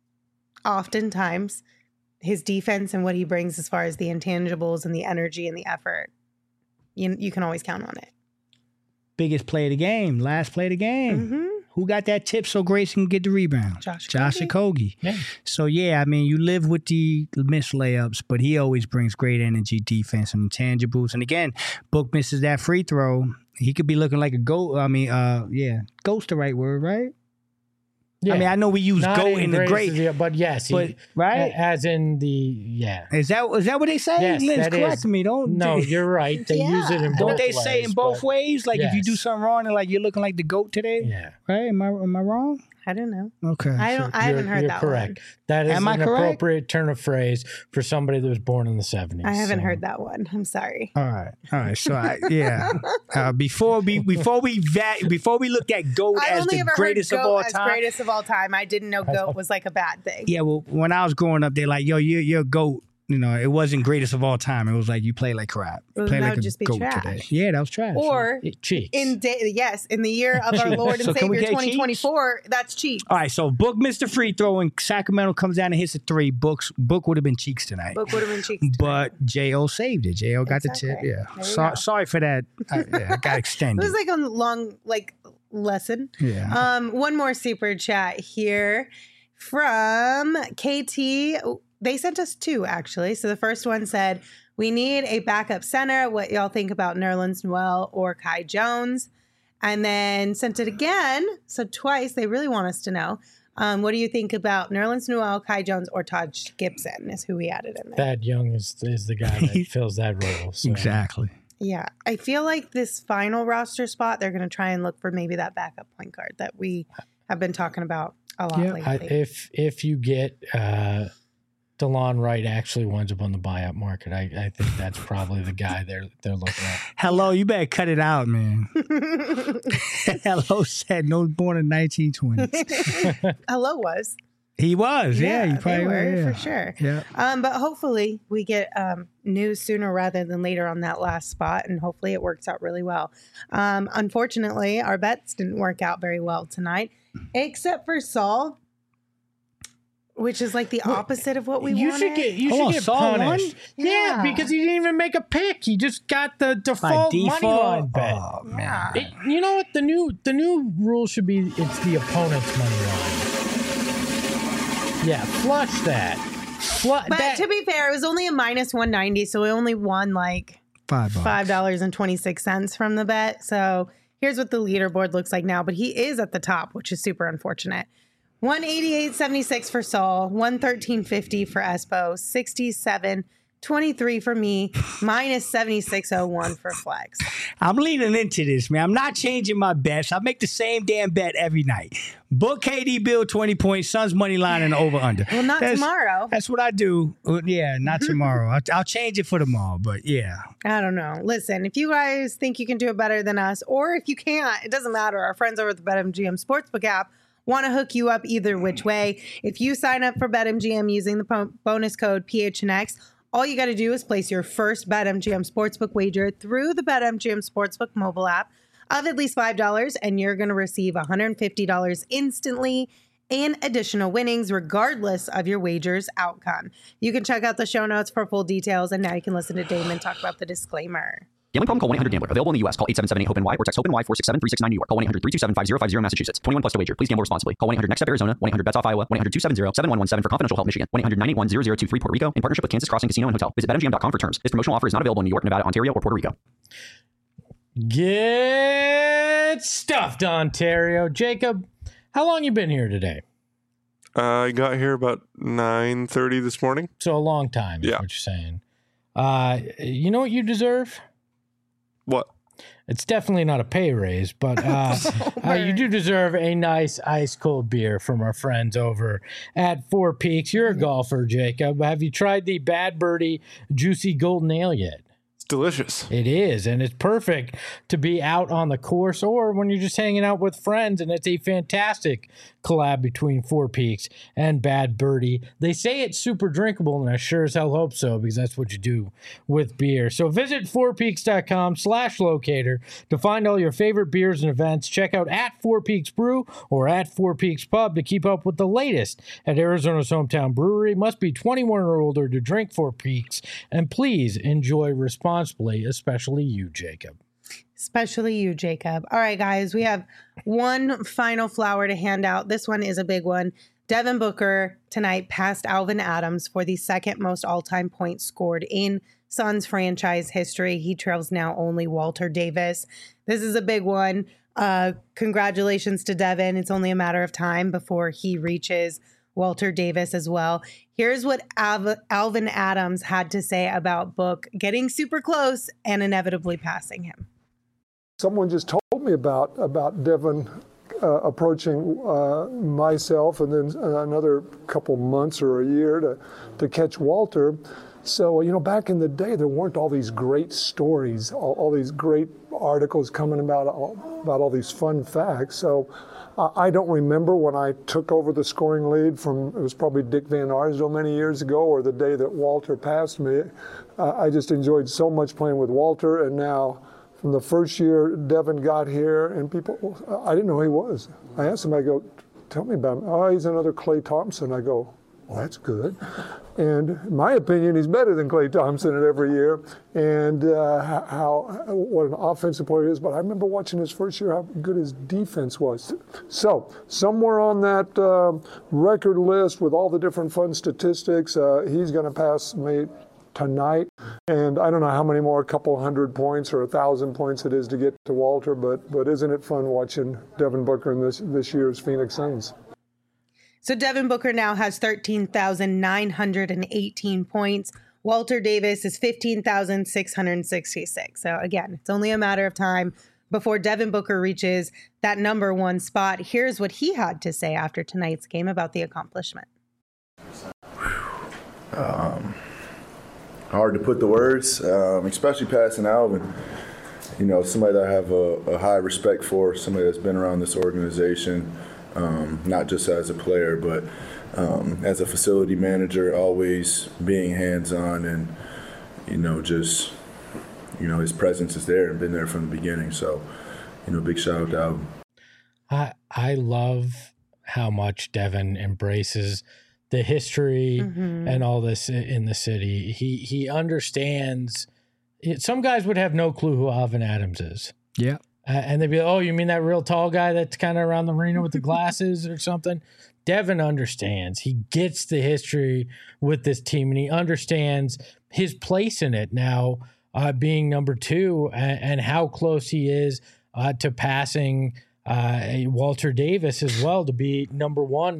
oftentimes, his defense and what he brings as far as the intangibles and the energy and the effort, you, you can always count on it. biggest play of the game, last play of the game. Mm-hmm. Who got that tip so Grayson can get the rebound? Josh Josh Okogie. Okogie. Yeah. So yeah, I mean, you live with the missed layups, but he always brings great energy, defense, and intangibles. And again, Book misses that free throw. He could be looking like a goat. I mean, uh, yeah, goat's the right word, right? yeah. I mean, I know we use Not goat in in the greatest great, of the- but yes, he- but right? as in the yeah. Is that is that what they say? Yes, Lynn's that correct is. me. Don't No, they, you're right. They Yeah. use it in both don't they say ways, in both but- ways? Like if you do Yes. something wrong and like you're looking like the goat today, Yeah. right? Am I am I wrong? I don't know. Okay. I don't. I You're- haven't heard you're that correct. one. That is Am I an correct? appropriate turn of phrase for somebody that was born in the seventies. I haven't so. heard that one. I'm sorry. All right, all right. So I, yeah, uh, before we before we va- before we look at goat I as only the ever greatest heard of goat all as time. greatest of all time. I didn't know goat was like a bad thing. Yeah, well, when I was growing up, they're like, "Yo, you're you're a goat." You know, it wasn't greatest of all time. It was like you play like crap. You Well, play that like would a just be goat trash. today. Yeah, that was trash. Or It cheeks. in day, yes, in the year of our Lord and So can we Savior get twenty twenty-four, that's cheap. all right, so Book missed the free throw and Sacramento comes down and hits a three. Book's Book would have been cheeks tonight. Book would have been cheap. But J O saved it. J O got the tip. Exactly. Yeah. There you So, go. sorry for that. I, yeah, I got It extended. was like a long like lesson. yeah. Um, one more super chat here from K T. They sent us two actually. So the first one said, "We need a backup center. What y'all think about Nerlens Noel or Kai Jones?" And then sent it again. So twice. They really want us to know. Um, what do you think about Nerlens Noel, Kai Jones, or Todd Gibson? Is who we added in there. Thad Young is is the guy that fills that role. So. Exactly. Yeah, I feel like this final roster spot, they're going to try and look for maybe that backup point guard that we have been talking about a lot Yeah, lately. I, if if you get uh, DeLon Wright actually winds up on the buyout market, I, I think that's probably the guy they're they're looking at. Hello, you better cut it out, man. Hello said no born in nineteen twenty. Hello was. He was, yeah. Yeah, he they probably were, was, yeah. for sure. Yeah. Um, but hopefully we get um, news sooner rather than later on that last spot, and hopefully it works out really well. Um, unfortunately, our bets didn't work out very well tonight, except for Saul, which is like the opposite of what we you wanted. should get you Hold should on, get Saul punished. won? Yeah, Yeah. because he didn't even make a pick. He just got the By default, money line default. bet. Oh, man. Yeah. It- you know what the new the new rule should be? It's the opponent's money line. Yeah, flush that. Flush But that. to be fair, it was only a minus one ninety, so we only won like Five bucks. five dollars and twenty-six cents from the bet. So here's what the leaderboard looks like now. But he is at the top, which is super unfortunate. one eighty-eight seventy-six for Saul, one thirteen fifty for Espo, sixty-seven twenty-three for me, minus seventy-six oh one for Flex. I'm leaning into this, man. I'm not changing my bets. I make the same damn bet every night. Book K D Bill twenty points, Suns money line and over under. Well, not that's, tomorrow. That's what I do. Uh, yeah, not tomorrow. I'll, I'll change it for tomorrow, but yeah. I don't know. Listen, if you guys think you can do it better than us, or if you can't, it doesn't matter. Our friends over at the BetMGM Sportsbook app want to hook you up either which way. If you sign up for BetMGM using the po- bonus code P H N X, all you got to do is place your first BetMGM Sportsbook wager through the BetMGM Sportsbook mobile app of at least five dollars, and you're going to receive one hundred fifty dollars instantly in additional winnings, regardless of your wager's outcome. You can check out the show notes for full details, and now you can listen to Damon talk about the disclaimer. Gambling problem? Call one eight hundred gambler. Available in the U S. Call eight seven seven eight hope N Y or text HOPE-NY four six seven three six nine New York. Call one eight hundred three two seven five zero five zero Massachusetts. twenty-one plus to wager. Please gamble responsibly. Call one eight hundred next step Arizona. one eight hundred bets off Iowa. one eight hundred two seven zero seven one one seven for confidential help Michigan. one eight hundred nine eight one zero zero two three Puerto Rico in partnership with Kansas Crossing Casino and Hotel. Visit bet M G M dot com for terms. This promotional offer is not available in New York, Nevada, Ontario, or Puerto Rico. Get stuffed, Ontario. Jacob, how long you been here today? Uh, I got here about nine thirty this morning. So a long time is Yeah. what you're saying. Uh, you know what you deserve? What? It's definitely not a pay raise, but uh, uh, you do deserve a nice ice cold beer from our friends over at Four Peaks. You're a golfer, Jacob. Have you tried the Bad Birdie Juicy Golden Ale yet? It's delicious. It is, and it's perfect to be out on the course or when you're just hanging out with friends, and it's a fantastic collab between Four Peaks and Bad Birdie. They say it's super drinkable, and I sure as hell hope so, because that's what you do with beer. So visit four peaks dot com slash locator to find all your favorite beers and events. Check out at Four Peaks Brew or at Four Peaks Pub to keep up with the latest at Arizona's hometown brewery. Must be twenty-one or older to drink Four Peaks, and please enjoy responsibly, especially you, Jacob. Especially you, Jacob. All right, guys, we have one final flower to hand out. This one is a big one. Devin Booker tonight passed Alvin Adams for the second most all-time points scored in Suns franchise history. He trails now only Walter Davis. This is a big one. Uh, congratulations to Devin. It's only a matter of time before he reaches Walter Davis as well. Here's what Al- Alvin Adams had to say about Book getting super close and inevitably passing him. Someone just told me about about Devin uh, approaching uh, myself, and then another couple months or a year to to catch Walter. So, you know, back in the day, there weren't all these great stories, all, all these great articles coming about all, about all these fun facts. So uh, I don't remember when I took over the scoring lead from, it was probably Dick Van Arsdale many years ago, or the day that Walter passed me. Uh, I just enjoyed so much playing with Walter, and now from the first year Devin got here, and people, I didn't know who he was. I asked him, I go, tell me about him. Oh, he's another Klay Thompson. I go, well, that's good. And in my opinion, he's better than Klay Thompson at every year. And uh, how what an offensive player he is. But I remember watching his first year, how good his defense was. So somewhere on that uh, record list with all the different fun statistics, uh, he's going to pass me tonight. And I don't know how many more, a couple hundred points or a thousand points it is to get to Walter. But but isn't it fun watching Devin Booker in this this year's Phoenix Suns? So Devin Booker now has thirteen thousand nine hundred eighteen points. Walter Davis is fifteen thousand six hundred sixty-six. So again, it's only a matter of time before Devin Booker reaches that number one spot. Here's what he had to say after tonight's game about the accomplishment. Um, hard to put the words, um, especially passing Alvin. You know, somebody that I have a, a high respect for, somebody that's been around this organization. Um, not just as a player, but um, as a facility manager, always being hands-on and, you know, just, you know, his presence is there and been there from the beginning. So, you know, big shout out to Alvin. I, I love how much Devin embraces the history mm-hmm. and all this in the city. He, he understands it. Some guys would have no clue who Alvin Adams is. Yeah. Uh, and they'd be like, oh, you mean that real tall guy that's kind of around the arena with the glasses or something? Devin understands. He gets the history with this team, and he understands his place in it now, uh, being number two, and, and how close he is uh, to passing uh, Walter Davis as well to be number one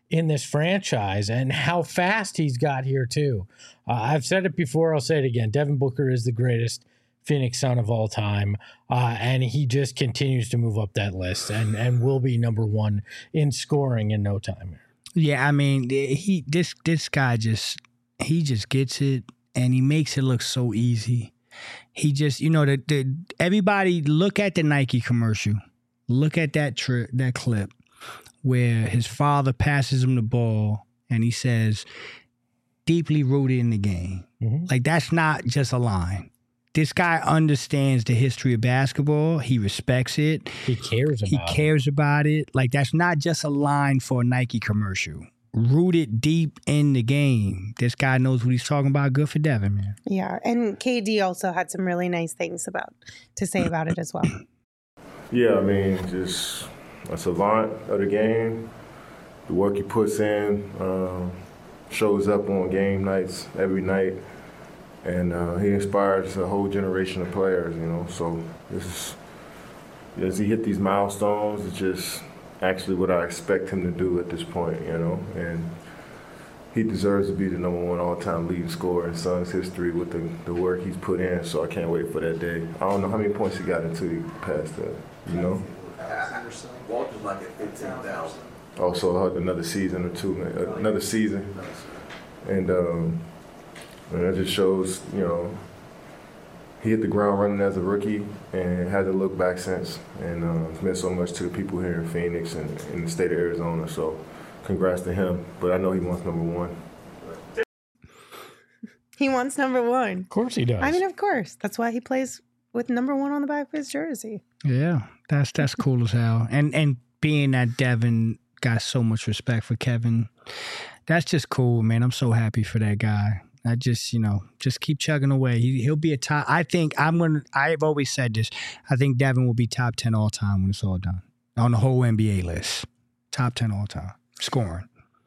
in this franchise and how fast he's got here too. Uh, I've said it before. I'll say it again. Devin Booker is the greatest Phoenix Sun of all time. Uh, and he just continues to move up that list and, and will be number one in scoring in no time. Yeah. I mean, he, this, this guy just, he just gets it and he makes it look so easy. He just, you know, the, the everybody look at the Nike commercial. Look at that tri- that clip where his father passes him the ball and he says, deeply rooted in the game. Mm-hmm. Like, that's not just a line. This guy understands the history of basketball. He respects it. He cares about he it. He cares about it. Like, that's not just a line for a Nike commercial. Rooted deep in the game. This guy knows what he's talking about. Good for Devin, man. Yeah, and K D also had some really nice things about to say about it as well. Yeah, I mean, just a savant of the game. The work he puts in um, shows up on game nights every night, and uh, he inspires a whole generation of players. You know, so this is as he hit these milestones, it's just actually what I expect him to do at this point, you know, and he deserves to be the number one all-time leading scorer in Suns history with the, the work he's put in, so I can't wait for that day. I don't know how many points he got until he passed that, you know? Walter's like at fifteen thousand. Also another season or two, another season, and, um, and that just shows, you know, he hit the ground running as a rookie and hasn't looked back since. And uh, it's meant so much to the people here in Phoenix and in the state of Arizona. So congrats to him. But I know he wants number one. He wants number one. Of course he does. I mean, of course. That's why he plays with number one on the back of his jersey. Yeah, that's that's cool as hell. And and being that Devin got so much respect for Kevin, that's just cool, man. I'm so happy for that guy. I just, you know, just keep chugging away. He, he'll be a top. I think I'm going to, I've always said this. I think Devin will be top ten all time when it's all done. On the whole N B A list. Top ten all time. Scoring.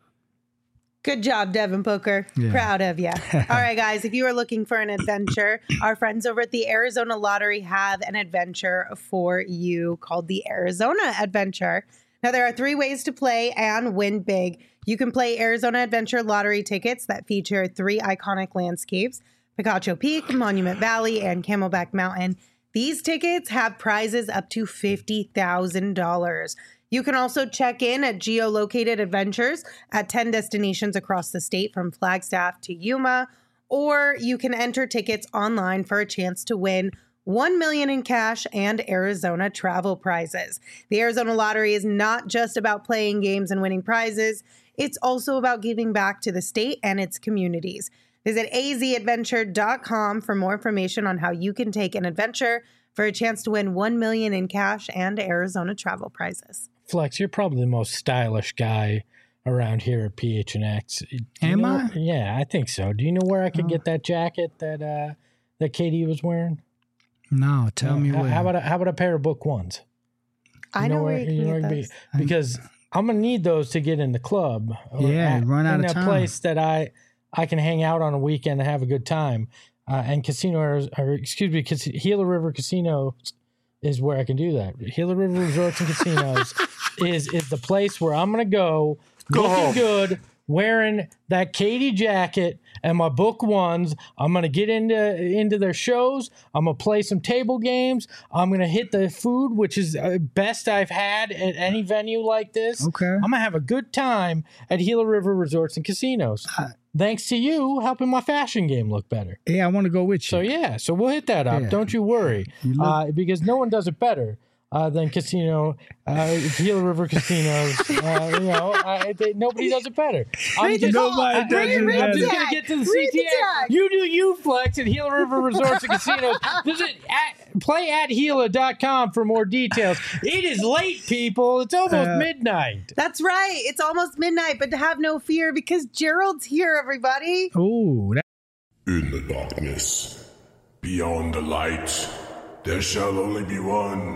Good job, Devin Booker. Yeah. Proud of you. All right, guys, if you are looking for an adventure, our friends over at the Arizona Lottery have an adventure for you called the Arizona Adventure. Now, there are three ways to play and win big. You can play Arizona Adventure Lottery tickets that feature three iconic landscapes, Picacho Peak, Monument Valley, and Camelback Mountain. These tickets have prizes up to fifty thousand dollars. You can also check in at geolocated adventures at ten destinations across the state from Flagstaff to Yuma, or you can enter tickets online for a chance to win one million dollars in cash and Arizona travel prizes. The Arizona Lottery is not just about playing games and winning prizes. It's also about giving back to the state and its communities. Visit a z adventure dot com for more information on how you can take an adventure for a chance to win one million dollars in cash and Arizona travel prizes. Flex, you're probably the most stylish guy around here at P H N X. Am I? Yeah, I think so. Do you know where I could oh. get that jacket that uh, that K D was wearing? No, tell uh, me how, where. How about a, how about a pair of Book Ones? You I know, know where, where you can get those. Be, because I'm gonna need those to get in the club. Yeah, at, run out in of time. In a place that I I can hang out on a weekend and have a good time. Uh, and casino, or, or excuse me, Gila River Casino is where I can do that. Gila River Resorts and Casinos is is the place where I'm gonna go, go looking home. good, wearing that Katie jacket and my Book Ones. I'm gonna get into into their shows. I'm gonna play some table games. I'm gonna hit the food, which is uh, best I've had at any venue like this. Okay, I'm gonna have a good time at Gila River Resorts and Casinos. Uh, Thanks to you helping my fashion game look better. Yeah, I want to go with you. So yeah, so we'll hit that up. Yeah. Don't you worry, you look- uh, because no one does it better. Uh, than casino, uh, Gila River Casinos. Uh, you know, uh, they, nobody does it better. I'm just, nobody uh, does it I'm better. just gonna get to the C T A. You do you, Flex, at Gila River Resorts and Casinos. Visit at, play at Gila dot com for more details. It is late, people. It's almost uh, midnight. That's right. It's almost midnight, but have no fear because Gerald's here, everybody. Ooh. That- In the darkness, beyond the light, there shall only be one.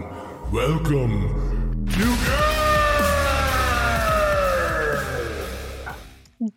Welcome to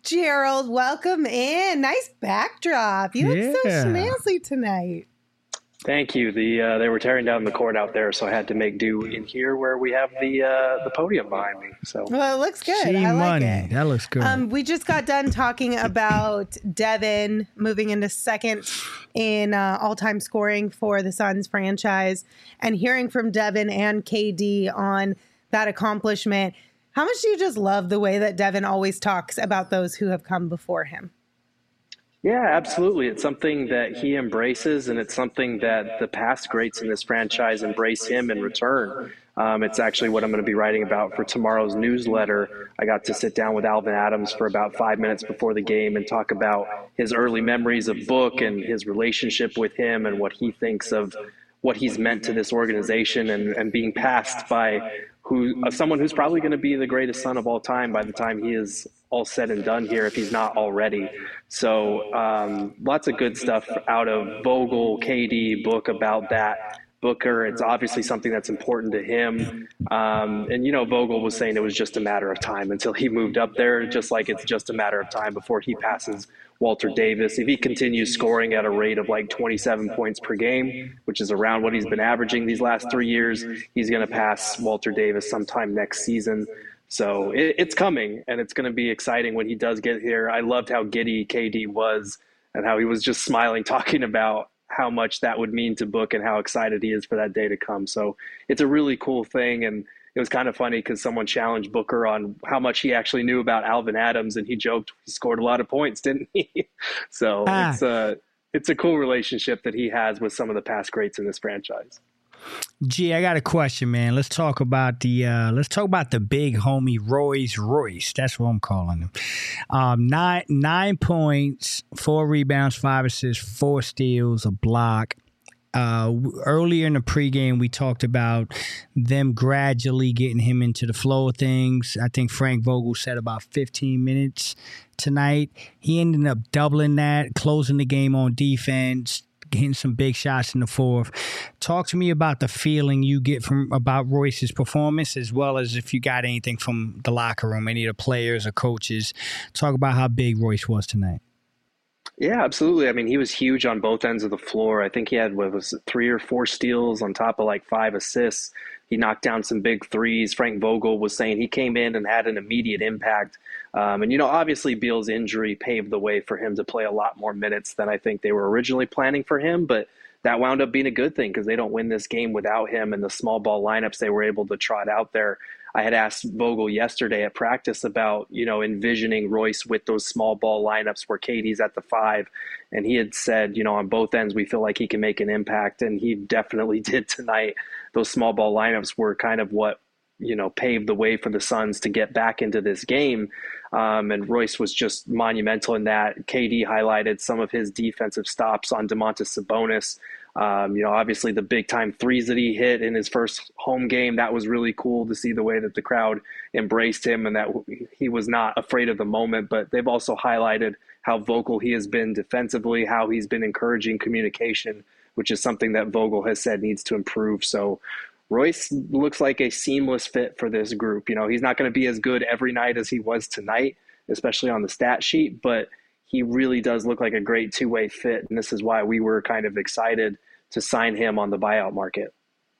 Gerald, welcome in. Nice backdrop. You yeah. look so schmancy tonight. Thank you. The uh, they were tearing down the court out there, so I had to make do in here where we have the uh, the podium behind me. So well, it looks good. See I like money. it. That looks good. Um, we just got done talking about Devin moving into second in uh, all-time scoring for the Suns franchise, and hearing from Devin and K D on that accomplishment. How much do you just love the way that Devin always talks about those who have come before him? Yeah, absolutely. It's something that he embraces, and it's something that the past greats in this franchise embrace him in return. Um, it's actually what I'm going to be writing about for tomorrow's newsletter. I got to sit down with Alvin Adams for about five minutes before the game and talk about his early memories of Book and his relationship with him and what he thinks of what he's meant to this organization, and, and being passed by who uh, someone who's probably going to be the greatest Sun of all time by the time he is all said and done here, if he's not already. So um, lots of good stuff out of Vogel, K D, Book about that. Booker, it's obviously something that's important to him. Um, and, you know, Vogel was saying it was just a matter of time until he moved up there, just like it's just a matter of time before he passes Walter Davis. If he continues scoring at a rate of like twenty-seven points per game, which is around what he's been averaging these last three years, he's going to pass Walter Davis sometime next season. So it, it's coming, and it's going to be exciting when he does get here. I loved how giddy K D was and how he was just smiling, talking about how much that would mean to Book and how excited he is for that day to come. So it's a really cool thing. And it was kind of funny because someone challenged Booker on how much he actually knew about Alvin Adams, and he joked he scored a lot of points, didn't he? So ah. it's a, it's a cool relationship that he has with some of the past greats in this franchise. Gee, I got a question, man. Let's talk about the uh, let's talk about the big homie Royce Royce. That's what I'm calling him. Um, nine nine points, four rebounds, five assists, four steals, a block. Uh, earlier in the pregame, we talked about them gradually getting him into the flow of things. I think Frank Vogel said about fifteen minutes tonight. He ended up doubling that, closing the game on defense, hitting some big shots in the fourth. Talk to me about the feeling you get from about Royce's performance, as well as if you got anything from the locker room, any of the players or coaches. Talk about how big Royce was tonight. Yeah, absolutely. I mean, he was huge on both ends of the floor. I think he had, what was it, three or four steals on top of like five assists. He knocked down some big threes. Frank Vogel was saying he came in and had an immediate impact. Um, and, you know, obviously Beal's injury paved the way for him to play a lot more minutes than I think they were originally planning for him. But that wound up being a good thing because they don't win this game without him, and the small ball lineups they were able to trot out there. I had asked Vogel yesterday at practice about, you know, envisioning Royce with those small ball lineups where K D's at the five. And he had said, you know, on both ends, we feel like he can make an impact. And he definitely did tonight. Those small ball lineups were kind of what, you know, paved the way for the Suns to get back into this game. Um, and Royce was just monumental in that. K D highlighted some of his defensive stops on Domantas Sabonis. Um, you know, obviously the big time threes that he hit in his first home game, that was really cool to see the way that the crowd embraced him and that he was not afraid of the moment. But they've also highlighted how vocal he has been defensively, how he's been encouraging communication, which is something that Vogel has said needs to improve. So Royce looks like a seamless fit for this group. You know, he's not going to be as good every night as he was tonight, especially on the stat sheet, but he really does look like a great two-way fit, and this is why we were kind of excited to sign him on the buyout market.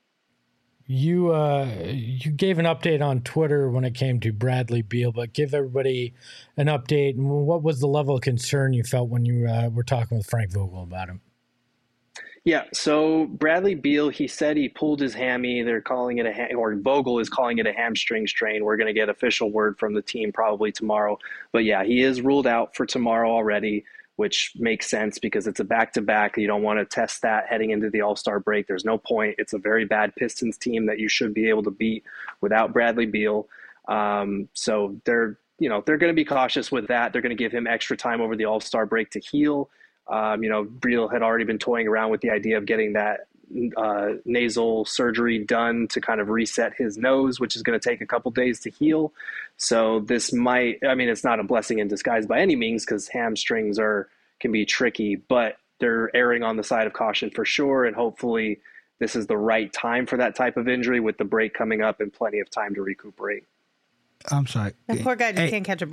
You uh, you gave an update on Twitter when it came to Bradley Beal, but give everybody an update. What was the level of concern you felt when you uh, were talking with Frank Vogel about him? Yeah, so Bradley Beal, he said he pulled his hammy. They're calling it a ham, or Vogel is calling it a hamstring strain. We're going to get official word from the team probably tomorrow. But yeah, he is ruled out for tomorrow already, which makes sense because it's a back-to-back. You don't want to test that heading into the All-Star break. There's no point. It's a very bad Pistons team that you should be able to beat without Bradley Beal. Um, so they're, you know, they're going to be cautious with that. They're going to give him extra time over the All-Star break to heal. Um, you know, Beal had already been toying around with the idea of getting that uh, nasal surgery done to kind of reset his nose, which is going to take a couple days to heal. So this might, I mean, it's not a blessing in disguise by any means because hamstrings are can be tricky, but they're erring on the side of caution for sure. And hopefully this is the right time for that type of injury with the break coming up and plenty of time to recuperate. I'm sorry. That poor guy just hey, can't catch a break.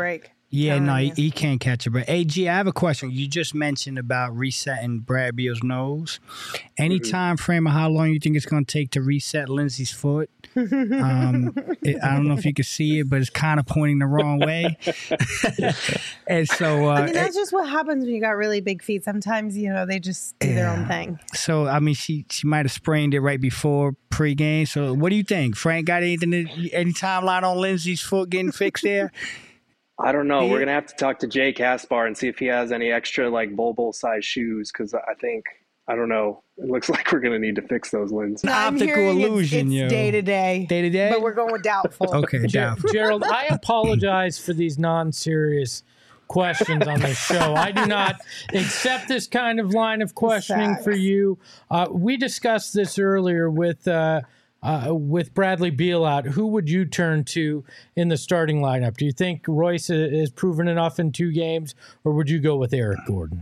Yeah, Telling no, he, you. he can't catch a break. A G, I have a question. You just mentioned about resetting Brad Beal's nose. Any Mm-hmm. time frame of how long you think it's going to take to reset Lindsey's foot? Um, it, I don't know if you can see it, but it's kind of pointing the wrong way. And so, uh, I mean, that's just what happens when you got really big feet. Sometimes, you know, they just do their own Yeah. thing. so I mean, she she might have sprained it right before pregame. So, what do you think, Frank? Got anything? To, any timeline on Lindsey's foot getting fixed there? I don't know. Yeah. We're gonna have to talk to Jay Caspar and see if he has any extra like Bobo size shoes because I think I don't know. It looks like we're gonna need to fix those lenses. I'm Optical hearing it's- illusion, yo. It's day to day. Day to day? But we're going with doubtful. Okay, Ger- doubtful. Gerald, I apologize for these non-serious questions on this show. I do not accept this kind of line of questioning for you. Uh, we discussed this earlier with uh, uh, with Bradley Beal out. Who would you turn to in the starting lineup? Do you think Royce has proven enough in two games, or would you go with Eric Gordon?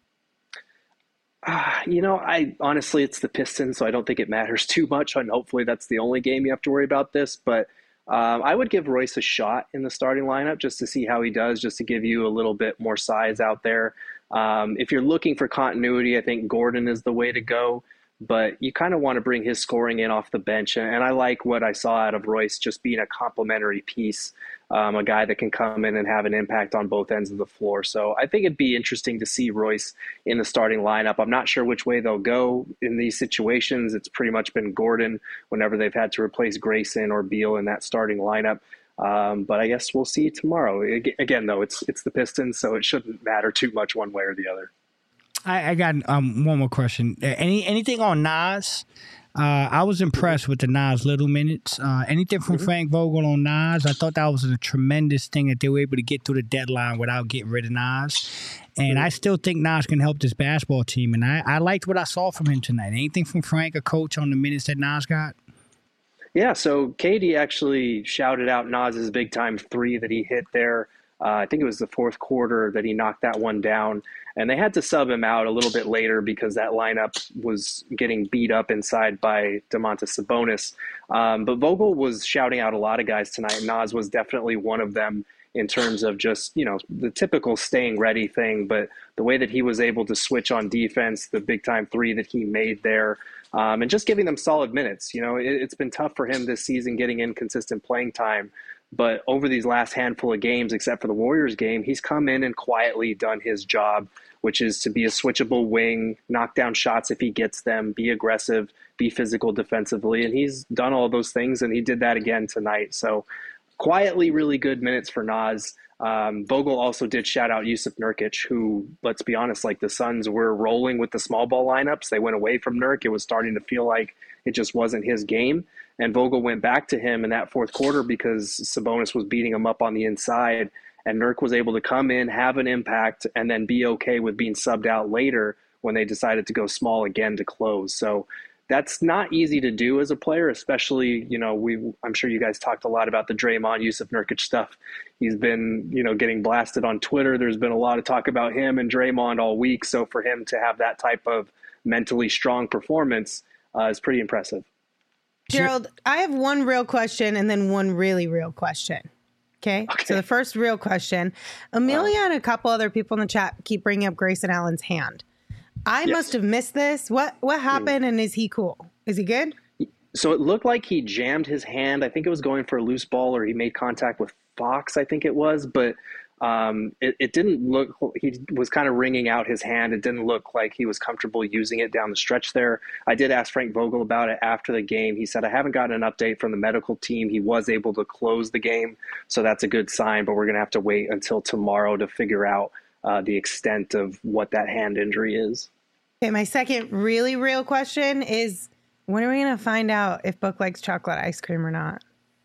Uh, you know, I honestly, it's the Pistons, so I don't think it matters too much. And hopefully, that's the only game you have to worry about this. But um, I would give Royce a shot in the starting lineup just to see how he does, just to give you a little bit more size out there. Um, if you're looking for continuity, I think Gordon is the way to go. But you kind of want to bring his scoring in off the bench. And, and I like what I saw out of Royce just being a complementary piece, um, a guy that can come in and have an impact on both ends of the floor. So I think it'd be interesting to see Royce in the starting lineup. I'm not sure which way they'll go in these situations. It's pretty much been Gordon whenever they've had to replace Grayson or Beal in that starting lineup. Um, but I guess we'll see tomorrow. Again, though, it's it's the Pistons, so it shouldn't matter too much one way or the other. I, I got um, one more question. Uh, Any anything on Nas? Uh, I was impressed with the Nas Little minutes. Uh, anything from Frank Vogel on Nas? I thought that was a tremendous thing that they were able to get through the deadline without getting rid of Nas. And I still think Nas can help this basketball team. And I, I liked what I saw from him tonight. Anything from Frank, a coach, on the minutes that Nas got? Yeah, so Katie actually shouted out Nas's big time three that he hit there. Uh, I think it was the fourth quarter that he knocked that one down. And they had to sub him out a little bit later because that lineup was getting beat up inside by Domantas Sabonis. Um, but Vogel was shouting out a lot of guys tonight. Nas was definitely one of them in terms of just, you know, the typical staying ready thing. But the way that he was able to switch on defense, the big time three that he made there, um, and just giving them solid minutes. You know, it, it's been tough for him this season getting inconsistent playing time. But over these last handful of games, except for the Warriors game, he's come in and quietly done his job, which is to be a switchable wing, knock down shots if he gets them, be aggressive, be physical defensively. And he's done all those things, and he did that again tonight. So quietly really good minutes for Nas. Um, Vogel also did shout out Yusuf Nurkic, who, let's be honest, like the Suns were rolling with the small ball lineups. They went away from Nurk. It was starting to feel like it just wasn't his game. And Vogel went back to him in that fourth quarter because Sabonis was beating him up on the inside. And Nurk was able to come in, have an impact, and then be okay with being subbed out later when they decided to go small again to close. So that's not easy to do as a player, especially, you know, we, I'm sure you guys talked a lot about the Draymond Yusuf Nurkic stuff. He's been, you know, getting blasted on Twitter. There's been a lot of talk about him and Draymond all week. So for him to have that type of mentally strong performance uh, is pretty impressive. Gerald, I have one real question and then one really real question. Okay? Okay. So the first real question, Amelia and a couple other people in the chat keep bringing up Grayson Allen's hand. I Yes. must have missed this. What what happened, and is he cool? Is he good? So it looked like he jammed his hand. I think it was going for a loose ball, or he made contact with Fox, I think it was. But um, it, it didn't look, he was kind of wringing out his hand. It didn't look like he was comfortable using it down the stretch there. I did ask Frank Vogel about it after the game. He said, I haven't gotten an update from the medical team. He was able to close the game, so that's a good sign. But we're going to have to wait until tomorrow to figure out uh, the extent of what that hand injury is. Okay, my second really real question is, when are we going to find out if Book likes chocolate ice cream or not?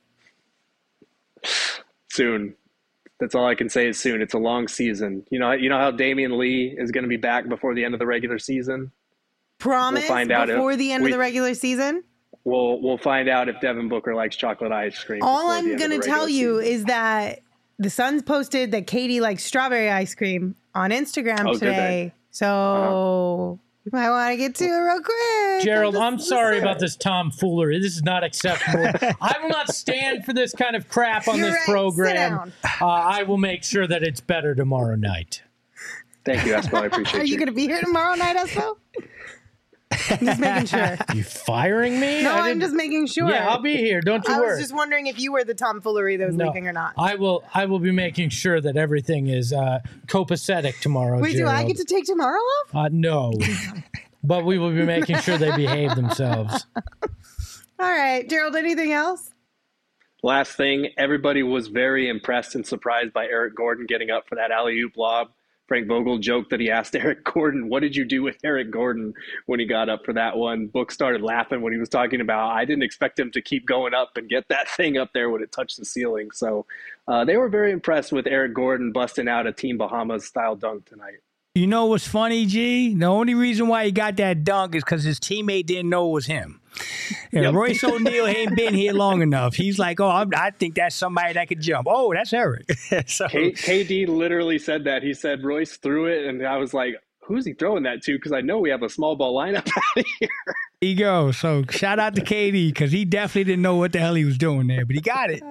Soon. That's all I can say is soon. It's a long season. You know, you know how Damian Lee is going to be back before the end of the regular season? Promise We'll find out before if the end we- of the regular season? We'll we'll find out if Devin Booker likes chocolate ice cream. All before the I'm end going of to the tell regular you season. is that the Suns posted that Katie likes strawberry ice cream on Instagram Oh, did they? today. So You might want to get to it real quick. Gerald, I'm, I'm sorry listen. about this tomfoolery. This is not acceptable. I will not stand for this kind of crap on You're this right. program. Uh, I will make sure that it's better tomorrow night. Thank you, Espo. I appreciate Are you, you. going to be here tomorrow night, Espo? I'm just making sure. You firing me? No, I I'm didn't- just making sure. Yeah, I'll be here. Don't you I worry. was just wondering if you were the tomfoolery that was No, leaking or not. I will. I will be making sure that everything is uh, copacetic tomorrow. Wait, Gerald. do I get to take tomorrow off? Uh, no, but we will be making sure they behave themselves. All right, Gerald, anything else? Last thing, everybody was very impressed and surprised by Eric Gordon getting up for that alley-oop lob. Frank Vogel joked that he asked Eric Gordon, what did you do with Eric Gordon when he got up for that one? Book started laughing when he was talking about, I didn't expect him to keep going up and get that thing up there when it touched the ceiling. So uh, they were very impressed with Eric Gordon busting out a Team Bahamas style dunk tonight. You know what's funny, G? The only reason why he got that dunk is because his teammate didn't know it was him. And Yep. Royce O'Neal ain't been here long enough. He's like, oh, I'm, I think that's somebody that could jump. Oh, that's Eric. so, K- KD literally said that. He said Royce threw it, and I was like, who's he throwing that to? Because I know we have a small ball lineup out of here. there you go. So shout out to K D because he definitely didn't know what the hell he was doing there, but he got it.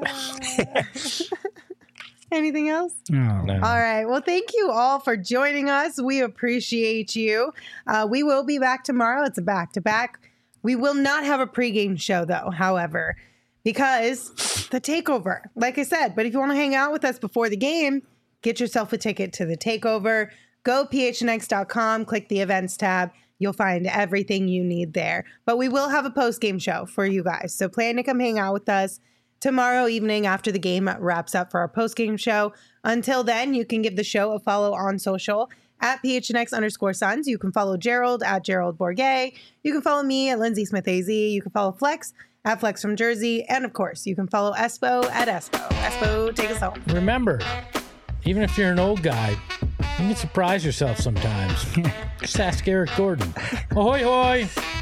Anything else? No. No. All right. Well, thank you all for joining us. We appreciate you. Uh, we will be back tomorrow. It's a back to back. We will not have a pregame show, though, however, because the takeover, like I said. But if you want to hang out with us before the game, get yourself a ticket to the takeover. Go P H N X dot com, click the events tab. You'll find everything you need there. But we will have a post-game show for you guys. So plan to come hang out with us tomorrow evening after the game wraps up for our post-game show. Until then, you can give the show a follow on social at P H N X underscore Suns. You can follow Gerald at Gerald Bourget. You can follow me at Lindsay Smith A Z. You can follow Flex at Flex from Jersey. And of course, you can follow Espo at Espo. Espo, take us home. Remember, even if you're an old guy, you can surprise yourself sometimes. Just ask Eric Gordon. Ahoy, hoy!